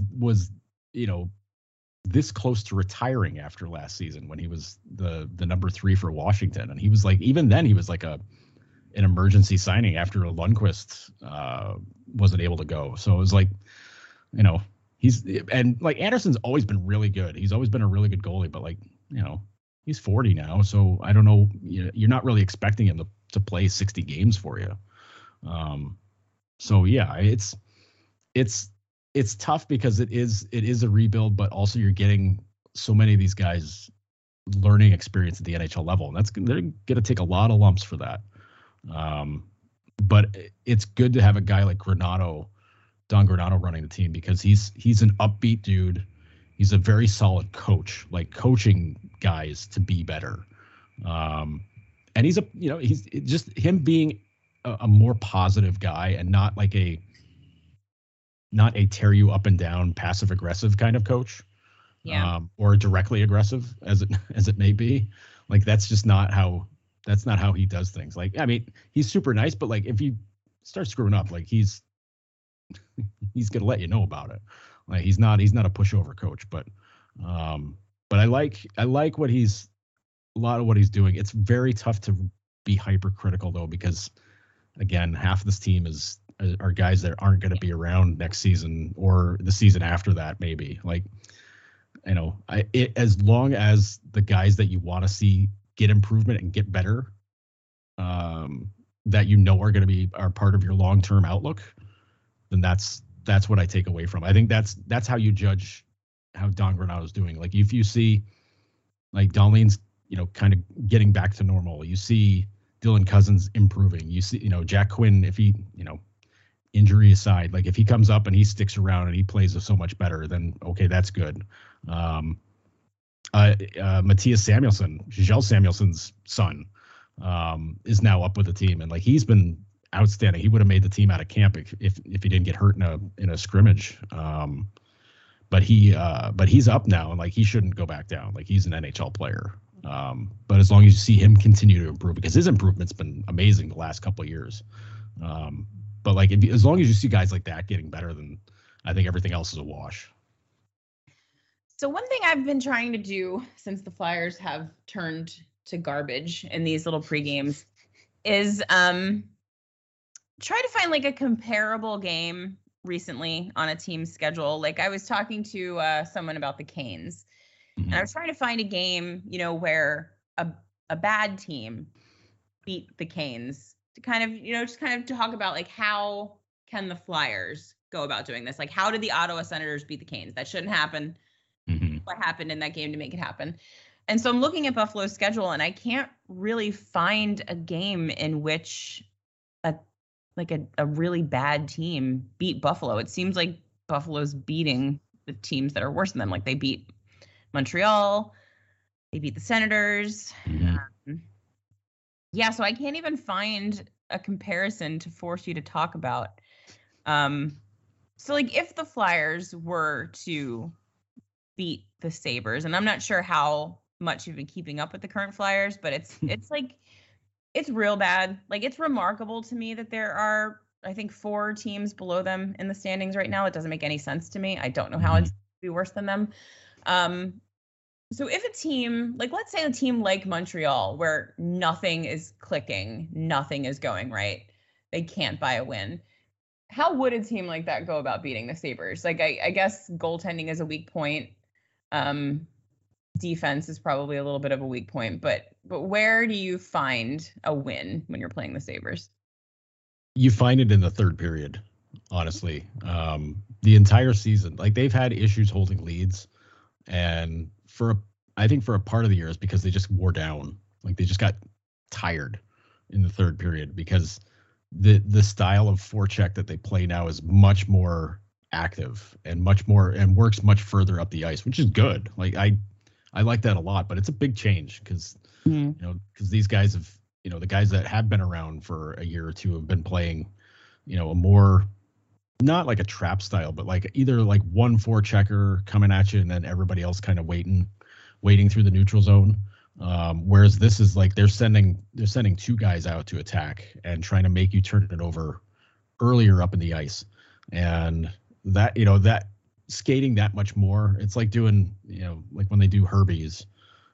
this close to retiring after last season when he was the number 3 for Washington, and he was like, even then he was like an emergency signing after Lundqvist wasn't able to go. So it was like, Anderson's always been really good. He's always been a really good goalie, but like, he's 40 now. So I don't know, you're not really expecting him to play 60 games for you. So yeah, it's tough because it is a rebuild, but also you're getting so many of these guys learning experience at the NHL level. And they're going to take a lot of lumps for that. But it's good to have a guy like Don Granato running the team because he's an upbeat dude. He's a very solid coach, like coaching guys to be better. And he's he's just him being a more positive guy and not a tear you up and down passive aggressive kind of coach. Yeah. Or directly aggressive as it may be. Like that's not how he does things. Like, I mean, he's super nice, but like if you start screwing up, like he's gonna let you know about it. Like he's not a pushover coach, but I like what a lot of what he's doing. It's very tough to be hypercritical though, because again, half of this team are guys that aren't going to be around next season or the season after that, maybe. Like, as long as the guys that you want to see get improvement and get better, that are going to are part of your long-term outlook, then that's what I take away from. I think that's how you judge how Don Granato is doing. Like if you see like Dahlin's, kind of getting back to normal, you see Dylan Cousins improving, you see, Jack Quinn, if he, injury aside, like if he comes up and he sticks around and he plays so much better, then okay, that's good. Matthias Samuelsson, Giselle Samuelson's son, is now up with the team, and like he's been outstanding. He would have made the team out of camp if he didn't get hurt in a scrimmage. But he's up now, and like he shouldn't go back down. Like he's an NHL player. But as long as you see him continue to improve, because his improvement's been amazing the last couple of years. But like as long as you see guys like that getting better, then I think everything else is a wash. So one thing I've been trying to do since the Flyers have turned to garbage in these little pre-games is try to find like a comparable game recently on a team's schedule. Like I was talking to someone about the Canes, and I was trying to find a game, where a bad team beat the Canes to kind of, just kind of talk about like how can the Flyers go about doing this? Like how did the Ottawa Senators beat the Canes? That shouldn't happen. What happened in that game to make it happen? And so I'm looking at Buffalo's schedule, and I can't really find a game in which a really bad team beat Buffalo. It seems like Buffalo's beating the teams that are worse than them. Like they beat Montreal, they beat the Senators. Yeah, so I can't even find a comparison to force you to talk about. So like if the Flyers were to beat the Sabres, and I'm not sure how much you've been keeping up with the current Flyers, but it's like it's real bad. Like it's remarkable to me that there are, I think, 4 teams below them in the standings right now. It doesn't make any sense to me. I don't know how it's be worse than them. So if a team, like let's say a team like Montreal, where nothing is clicking, nothing is going right, they can't buy a win. How would a team like that go about beating the Sabres? Like I guess goaltending is a weak point. Defense is probably a little bit of a weak point, but where do you find a win when you're playing the Sabres? You find it in the third period, honestly. The entire season, like they've had issues holding leads, and I think for a part of the year is because they just wore down. Like they just got tired in the third period because the style of forecheck that they play now is much more active and much more and works much further up the ice, which is good. Like I like that a lot, but it's a big change because because these guys have, the guys that have been around for a year or two have been playing, a more, not like a trap style, but like either like one forechecker coming at you and then everybody else kind of waiting through the neutral zone. Whereas this is like they're sending 2 guys out to attack and trying to make you turn it over earlier up in the ice. And that, that skating that much more, it's like doing, like when they do Herbies,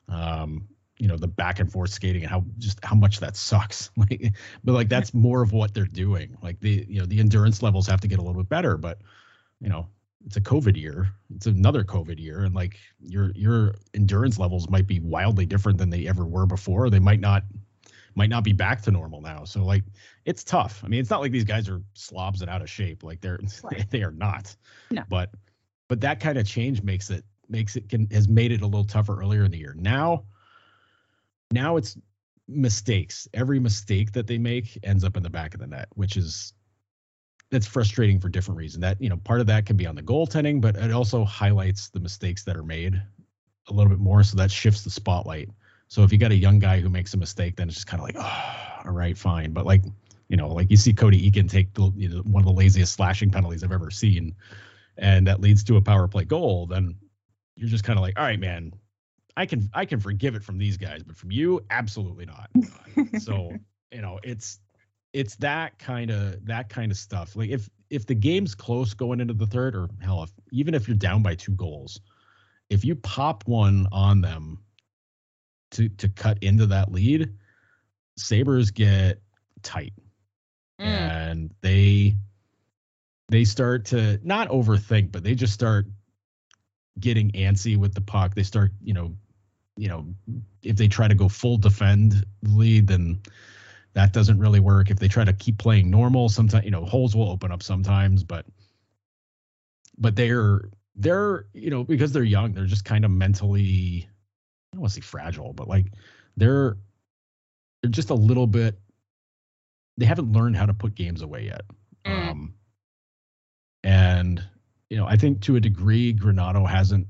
the back and forth skating and how much that sucks. Like, but like that's more of what they're doing. Like the endurance levels have to get a little bit better, but it's a COVID year. It's another COVID year, and like your endurance levels might be wildly different than they ever were before. They might not be back to normal now. So like it's tough. I mean, it's not like these guys are slobs and out of shape. Like they are not. No. But that kind of change has made it a little tougher earlier in the year. Now it's mistakes. Every mistake that they make ends up in the back of the net, which is that's frustrating for different reasons. That, part of that can be on the goaltending, but it also highlights the mistakes that are made a little bit more. So that shifts the spotlight. So if you got a young guy who makes a mistake, then it's just kind of like, oh, all right, fine. But like, like you see Cody Eakin take one of the laziest slashing penalties I've ever seen, and that leads to a power play goal, then you're just kind of like, all right, man, I can forgive it from these guys, but from you, absolutely not. So, it's that kind of stuff. Like if the game's close going into the third, or hell, even if you're down by 2 goals, if you pop one on them to cut into that lead, Sabres get tight. And they start to not overthink, but they just start getting antsy with the puck. They start, if they try to go full defend the lead, then that doesn't really work. If they try to keep playing normal, sometimes, holes will open up sometimes, but they're, because they're young, they're just kind of mentally, I don't want to say fragile, but like they're just a little bit, they haven't learned how to put games away yet. And, I think to a degree, Granato hasn't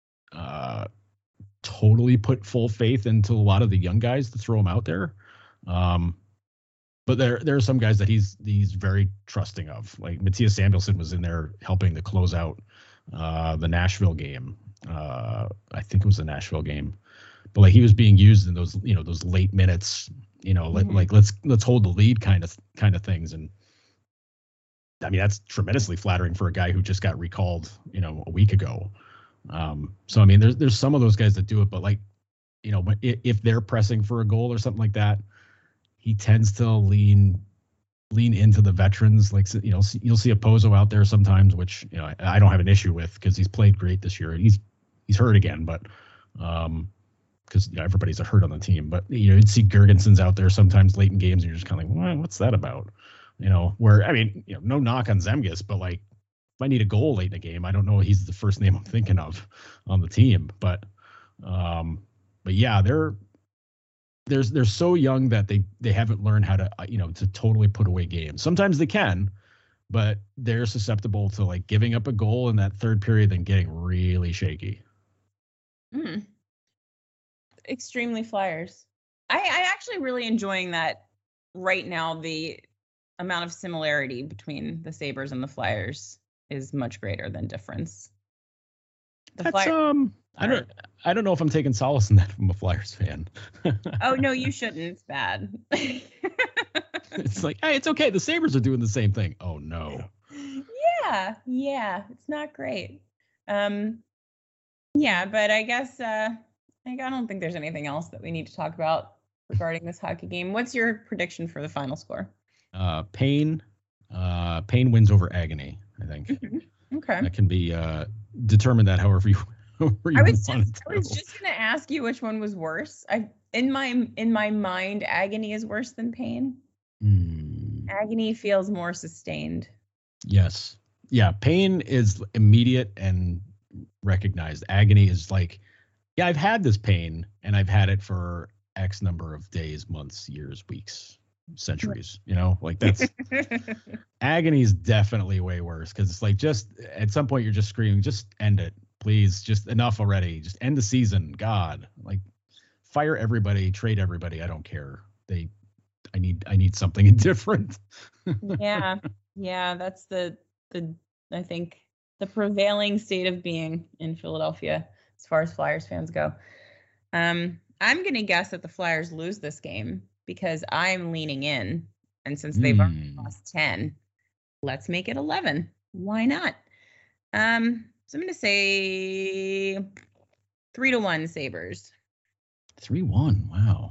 totally put full faith into a lot of the young guys to throw them out there. But there are some guys that he's very trusting of. Like Matthias Samuelsson was in there helping to close out the Nashville game. I think it was the Nashville game. But like he was being used in those, those late minutes, like let's hold the lead kind of things. And I mean, that's tremendously flattering for a guy who just got recalled, a week ago. So I mean, there's some of those guys that do it, but like, if they're pressing for a goal or something like that, he tends to lean into the veterans. Like, you'll see a Pozo out there sometimes, which, I don't have an issue with because he's played great this year. He's hurt again, but because everybody's hurt on the team. But you'd see Gergensons out there sometimes late in games, and you're just kind of like, what's that about? Where I mean, no knock on Zemgus, but like if I need a goal late in a game, I don't know he's the first name I'm thinking of on the team. But yeah, they're so young that they haven't learned how to to totally put away games. Sometimes they can, but they're susceptible to like giving up a goal in that third period and getting really shaky. Extremely Flyers. I actually really enjoying that right now. The amount of similarity between the Sabres and the Flyers is much greater than difference. I don't know if I'm taking solace in that from a Flyers fan. Oh no, you shouldn't. It's bad. It's like, hey, it's okay. The Sabres are doing the same thing. Oh no. Yeah, it's not great. Yeah, but I guess I don't think there's anything else that we need to talk about regarding this hockey game. What's your prediction for the final score? Pain wins over agony, I think. Mm-hmm. Okay. That can be determined that however you I was just going to ask you which one was worse. In my mind, agony is worse than pain. Agony feels more sustained. Yes. Yeah, pain is immediate and recognized. Agony is like, yeah, I've had this pain and I've had it for X number of days, months, years, weeks, centuries, like that's agony is definitely way worse because it's like just at some point you're just screaming, just end it, please, just enough already, just end the season, God, like fire everybody, trade everybody, I don't care. I need something different. Yeah, that's the I think the prevailing state of being in Philadelphia as far as Flyers fans go. I'm gonna guess that the Flyers lose this game because I'm leaning in, and since they've already lost 10, let's make it 11. Why not? So I'm gonna say 3-1 Sabres. 3-1. Wow.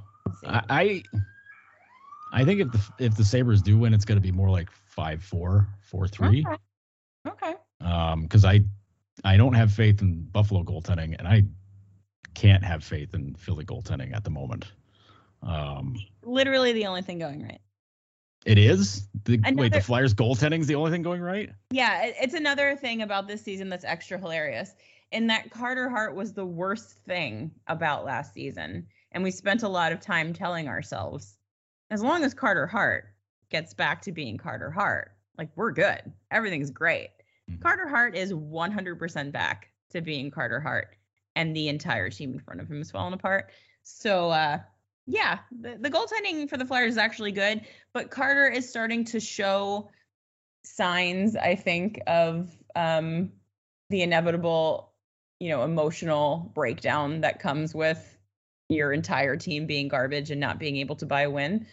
I think if the Sabres do win, it's going to be more like 5-4, 4-3. Okay. Because I don't have faith in Buffalo goaltending, and I can't have faith in Philly goaltending at the moment. Literally the only thing going right. It is? The Flyers goaltending is the only thing going right? Yeah, it's another thing about this season that's extra hilarious. In that Carter Hart was the worst thing about last season. And we spent a lot of time telling ourselves, as long as Carter Hart gets back to being Carter Hart, like we're good. Everything's great. Mm-hmm. Carter Hart is 100% back to being Carter Hart. And the entire team in front of him is falling apart. So, yeah, the goaltending for the Flyers is actually good, but Carter is starting to show signs, I think, of the inevitable, emotional breakdown that comes with your entire team being garbage and not being able to buy a win.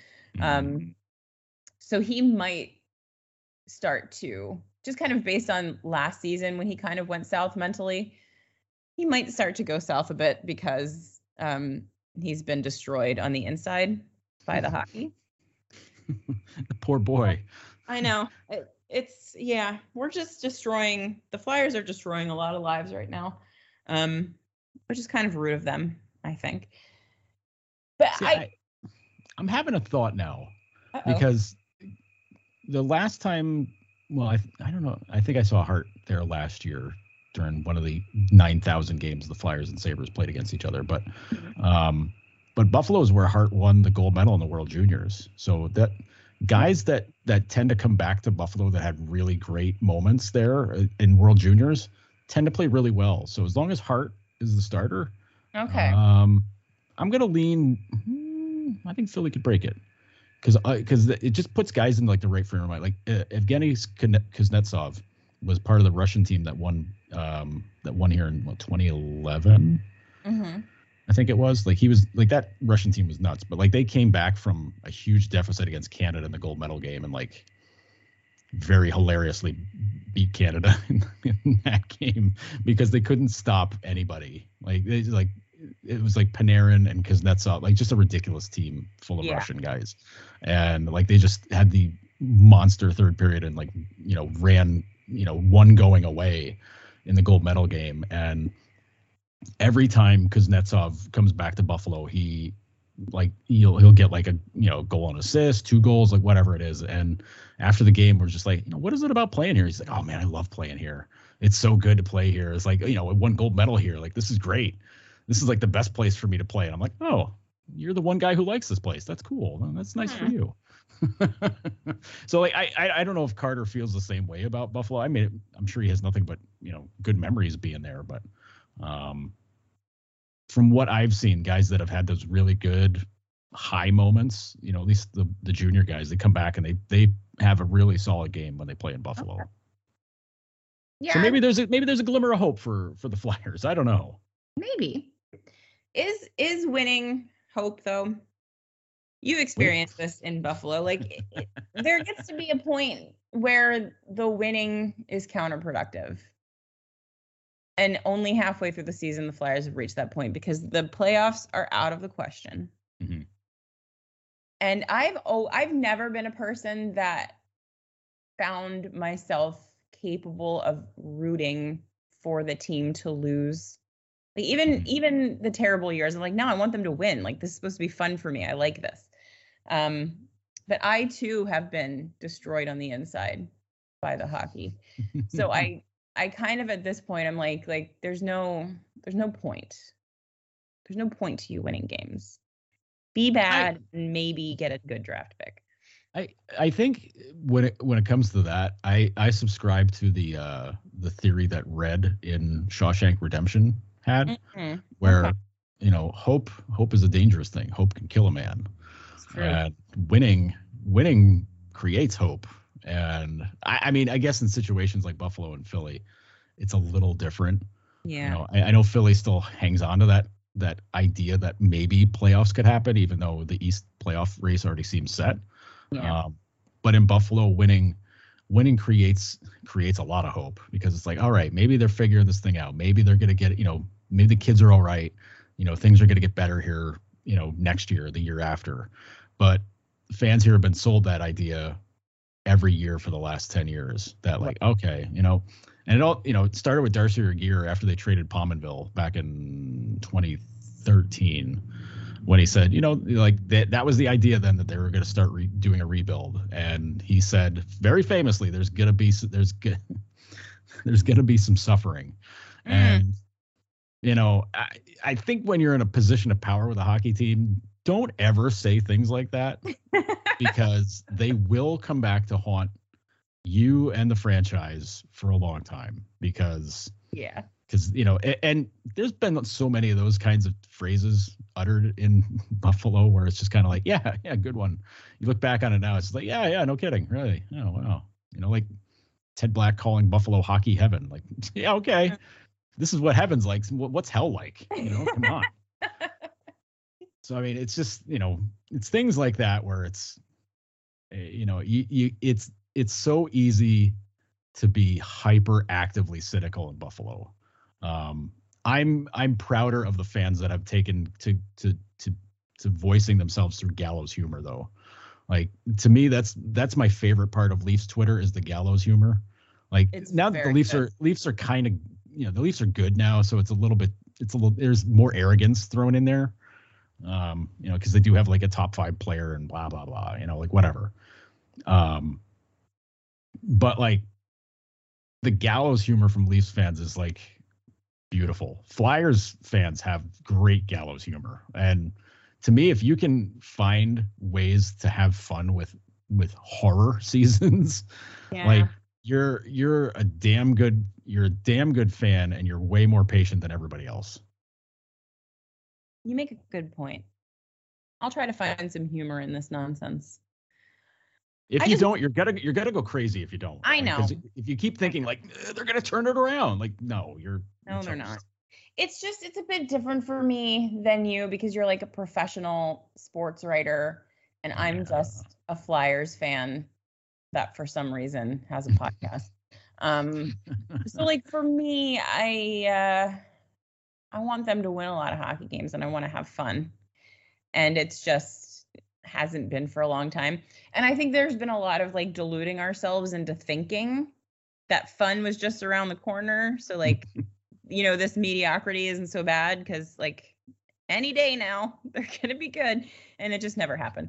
So he might start to, just kind of based on last season when he kind of went south mentally, he might start to go south a bit because he's been destroyed on the inside by the hockey. The poor boy. I know. We're just destroying, the Flyers are destroying a lot of lives right now, which is kind of rude of them, I think. But I'm having a thought now. Uh-oh. Because the last time, well, I don't know. I think I saw Hart there last year during one of the 9,000 games the Flyers and Sabres played against each other. But Buffalo is where Hart won the gold medal in the World Juniors. So that guys that tend to come back to Buffalo that had really great moments there in World Juniors tend to play really well. So as long as Hart is the starter, okay, I'm going to lean. I think Philly could break it. Because it just puts guys in like the right frame of mind. Like Evgeny Kuznetsov was part of the Russian team that won here in 2011. Mm-hmm. I think it was. Like he was like, that Russian team was nuts, but like they came back from a huge deficit against Canada in the gold medal game and like very hilariously beat Canada in that game because they couldn't stop anybody. Like it was like Panarin and Kuznetsov, like just a ridiculous team full of Russian guys. And like, they just had the monster third period and like, ran, one going away in the gold medal game. And every time Kuznetsov comes back to Buffalo, he'll get like a, goal and assist, 2 goals, like whatever it is. And after the game, we're just like, what is it about playing here? He's like, oh man, I love playing here. It's so good to play here. It's like, I won gold medal here. Like, this is great. This is like the best place for me to play. And I'm like, oh, you're the one guy who likes this place. That's cool. That's nice for you. So like, I don't know if Carter feels the same way about Buffalo. I mean, I'm sure he has nothing but, good memories being there. But from what I've seen, guys that have had those really good high moments, you know, at least the junior guys, they come back and they have a really solid game when they play in Buffalo. Okay. Yeah. So maybe there's a glimmer of hope for the Flyers. I don't know. Maybe. Is winning hope though? You experienced this in Buffalo. Like there gets to be a point where the winning is counterproductive. And only halfway through the season, the Flyers have reached that point because the playoffs are out of the question. Mm-hmm. And I've never been a person that found myself capable of rooting for the team to lose. Like even the terrible years, I'm like, no, I want them to win. Like this is supposed to be fun for me. I like this. But I too have been destroyed on the inside by the hockey. So I kind of at this point I'm like there's no point. There's no point to you winning games. Be bad and maybe get a good draft pick. I think when it comes to that, I subscribe to the theory that Red in Shawshank Redemption had, where you know hope is a dangerous thing. Hope can kill a man, and winning creates hope. And I mean, I guess in situations like Buffalo and Philly, it's a little different. Yeah, you know, I know Philly still hangs on to that idea that maybe playoffs could happen, even though the East playoff race already seems set. Yeah. But in Buffalo, winning creates a lot of hope because it's like, all right, maybe they're figuring this thing out. Maybe they're going to get, you know, maybe the kids are all right. You know, things are going to get better here, you know, next year, the year after. But fans here have been sold that idea every year for the last 10 years that like, okay, you know, and it all, you know, it started with Darcy Regier after they traded Pominville back in 2013. When he said, you know, like that was the idea then that they were going to start doing a rebuild, and he said very famously, "There's gonna be some suffering," and you know, I think when you're in a position of power with a hockey team, don't ever say things like that because they will come back to haunt you and the franchise for a long time. Because you know, and there's been so many of those kinds of phrases uttered in Buffalo where it's just kind of like, yeah, good one. You look back on it now, it's like, yeah, no kidding, really. Oh, wow. You know, like Ted Black calling Buffalo hockey heaven. Like, yeah, okay. This is what heaven's like. What's hell like? You know, come on. So, I mean, it's just, you know, it's things like that where it's, you know, it's so easy to be hyper actively cynical in Buffalo. I'm prouder of the fans that have taken to voicing themselves through gallows humor, though. Like, to me, that's my favorite part of Leafs Twitter is the gallows humor. Like, now that the Leafs are kind of, you know, the Leafs are good now, so it's a little there's more arrogance thrown in there. You know, because they do have like a top 5 player and blah blah blah, you know, like whatever. But like the gallows humor from Leafs fans is like beautiful. Flyers fans have great gallows humor, and to me, if you can find ways to have fun with horror seasons, like you're a damn good fan, and you're way more patient than everybody else. You make a good point. I'll try to find some humor in this nonsense. If you don't, you're gonna go crazy if you don't. I know. Because if you keep thinking like they're gonna turn it around, like no, they're not. It's a bit different for me than you because you're like a professional sports writer and I'm just a Flyers fan that for some reason has a podcast. So like for me, I want them to win a lot of hockey games and I want to have fun. And it's just hasn't been for a long time. And I think there's been a lot of like deluding ourselves into thinking that fun was just around the corner. So like, you know, this mediocrity isn't so bad because like any day now they're going to be good. And it just never happened.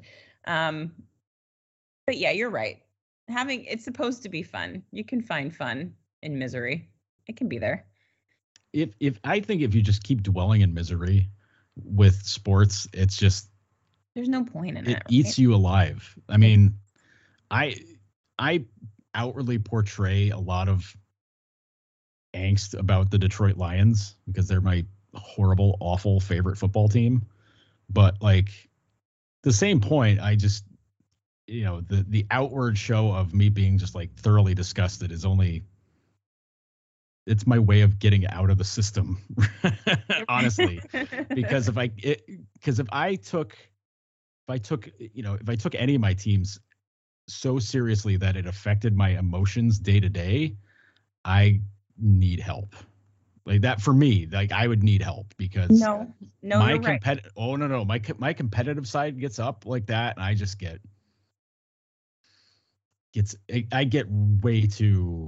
But yeah, you're right. It's supposed to be fun. You can find fun in misery. It can be there. If I think if you just keep dwelling in misery with sports, it's just there's no point in it. It eats you alive. I mean, I outwardly portray a lot of angst about the Detroit Lions because they're my horrible, awful favorite football team. But like the same point, I just, the outward show of me being just like thoroughly disgusted is only, it's my way of getting out of the system, honestly. Because if I took any of my teams so seriously that it affected my emotions day to day, I need help. Like that for me, like I would need help because no, my you're right. My competitive side gets up like that, and I just I get way too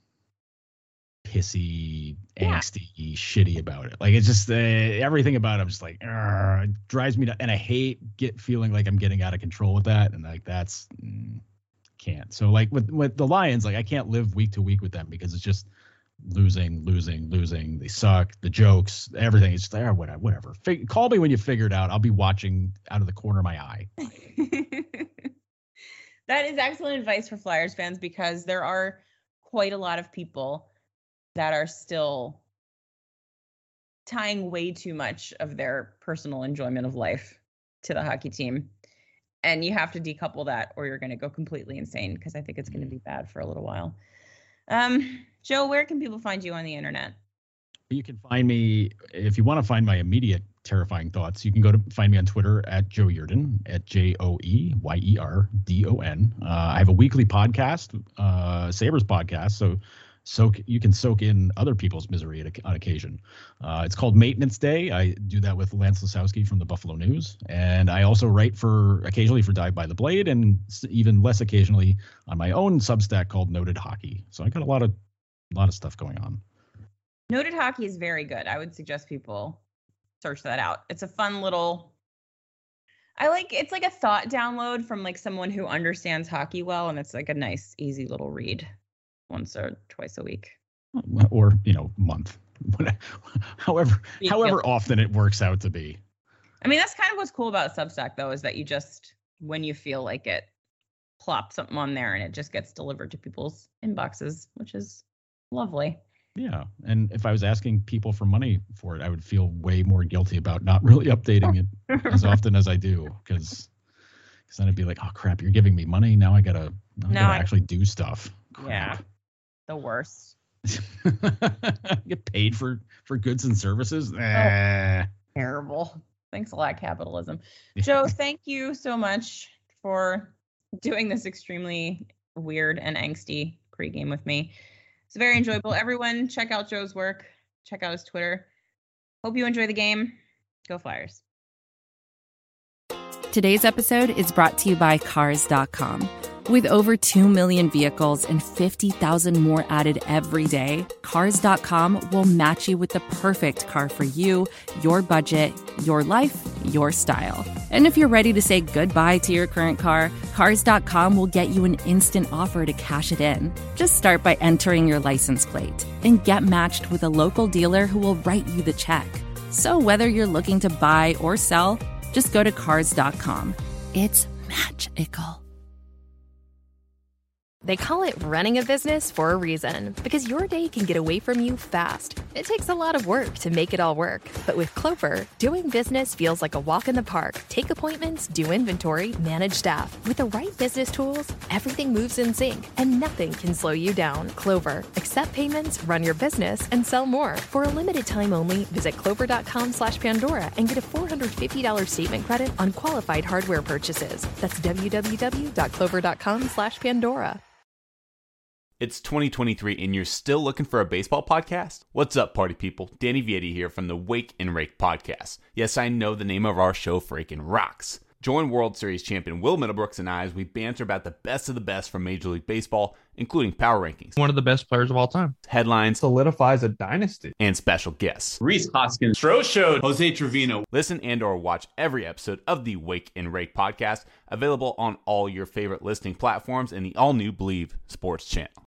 pissy, angsty, shitty about it. Like it's just everything about it. I'm just like, it drives me to, and I hate feeling like I'm getting out of control with that, and like that's can't. So like with the Lions, like I can't live week to week with them because it's just losing. They suck. The jokes, everything. It's just like, whatever. Call me when you figure it out. I'll be watching out of the corner of my eye. That is excellent advice for Flyers fans because there are quite a lot of people that are still tying way too much of their personal enjoyment of life to the hockey team. And you have to decouple that or you're going to go completely insane because I think it's going to be bad for a little while. Joe, where can people find you on the internet? You can find me, if you want to find my immediate terrifying thoughts, you can find me on Twitter at Joe Yerdon, at JoeYerdon. I have a weekly podcast, Sabres podcast, so you can soak in other people's misery on occasion. It's called Maintenance Day. I do that with Lance Lasowski from the Buffalo News. And I also write occasionally for Dive by the Blade and even less occasionally on my own Substack called Noted Hockey. So I got a lot of stuff going on. Noted Hockey is very good. I would suggest people search that out. It's a fun little, it's like a thought download from like someone who understands hockey well. And it's like a nice, easy little read once or twice a week. Or, month, however often it works out to be. I mean, that's kind of what's cool about Substack though, is that you just, when you feel like it, plop something on there and it just gets delivered to people's inboxes, which is lovely. Yeah. And if I was asking people for money for it, I would feel way more guilty about not really updating it as often as I do. Because then I'd be like, oh, crap, you're giving me money. Now I gotta actually do stuff. Crap. Yeah. The worst. Get paid for goods and services. Terrible. Thanks a lot, capitalism. Joe, thank you so much for doing this extremely weird and angsty pregame with me. It's very enjoyable. Everyone, check out Joe's work. Check out his Twitter. Hope you enjoy the game. Go Flyers. Today's episode is brought to you by Cars.com. With over 2 million vehicles and 50,000 more added every day, Cars.com will match you with the perfect car for you, your budget, your life, your style. And if you're ready to say goodbye to your current car, Cars.com will get you an instant offer to cash it in. Just start by entering your license plate and get matched with a local dealer who will write you the check. So whether you're looking to buy or sell, just go to Cars.com. It's magical. They call it running a business for a reason, because your day can get away from you fast. It takes a lot of work to make it all work. But with Clover, doing business feels like a walk in the park. Take appointments, do inventory, manage staff. With the right business tools, everything moves in sync, and nothing can slow you down. Clover, accept payments, run your business, and sell more. For a limited time only, visit clover.com/Pandora and get a $450 statement credit on qualified hardware purchases. That's www.clover.com/Pandora. It's 2023 and you're still looking for a baseball podcast? What's up, party people? Danny Vietti here from the Wake and Rake podcast. Yes, I know the name of our show freaking rocks. Join World Series champion Will Middlebrooks and I as we banter about the best of the best from Major League Baseball, including power rankings, one of the best players of all time, headlines, solidifies a dynasty, and special guests. Rhys Hoskins, Stroh Showed, Jose Trevino. Listen and or watch every episode of the Wake and Rake podcast, available on all your favorite listening platforms and the all-new Believe Sports channel.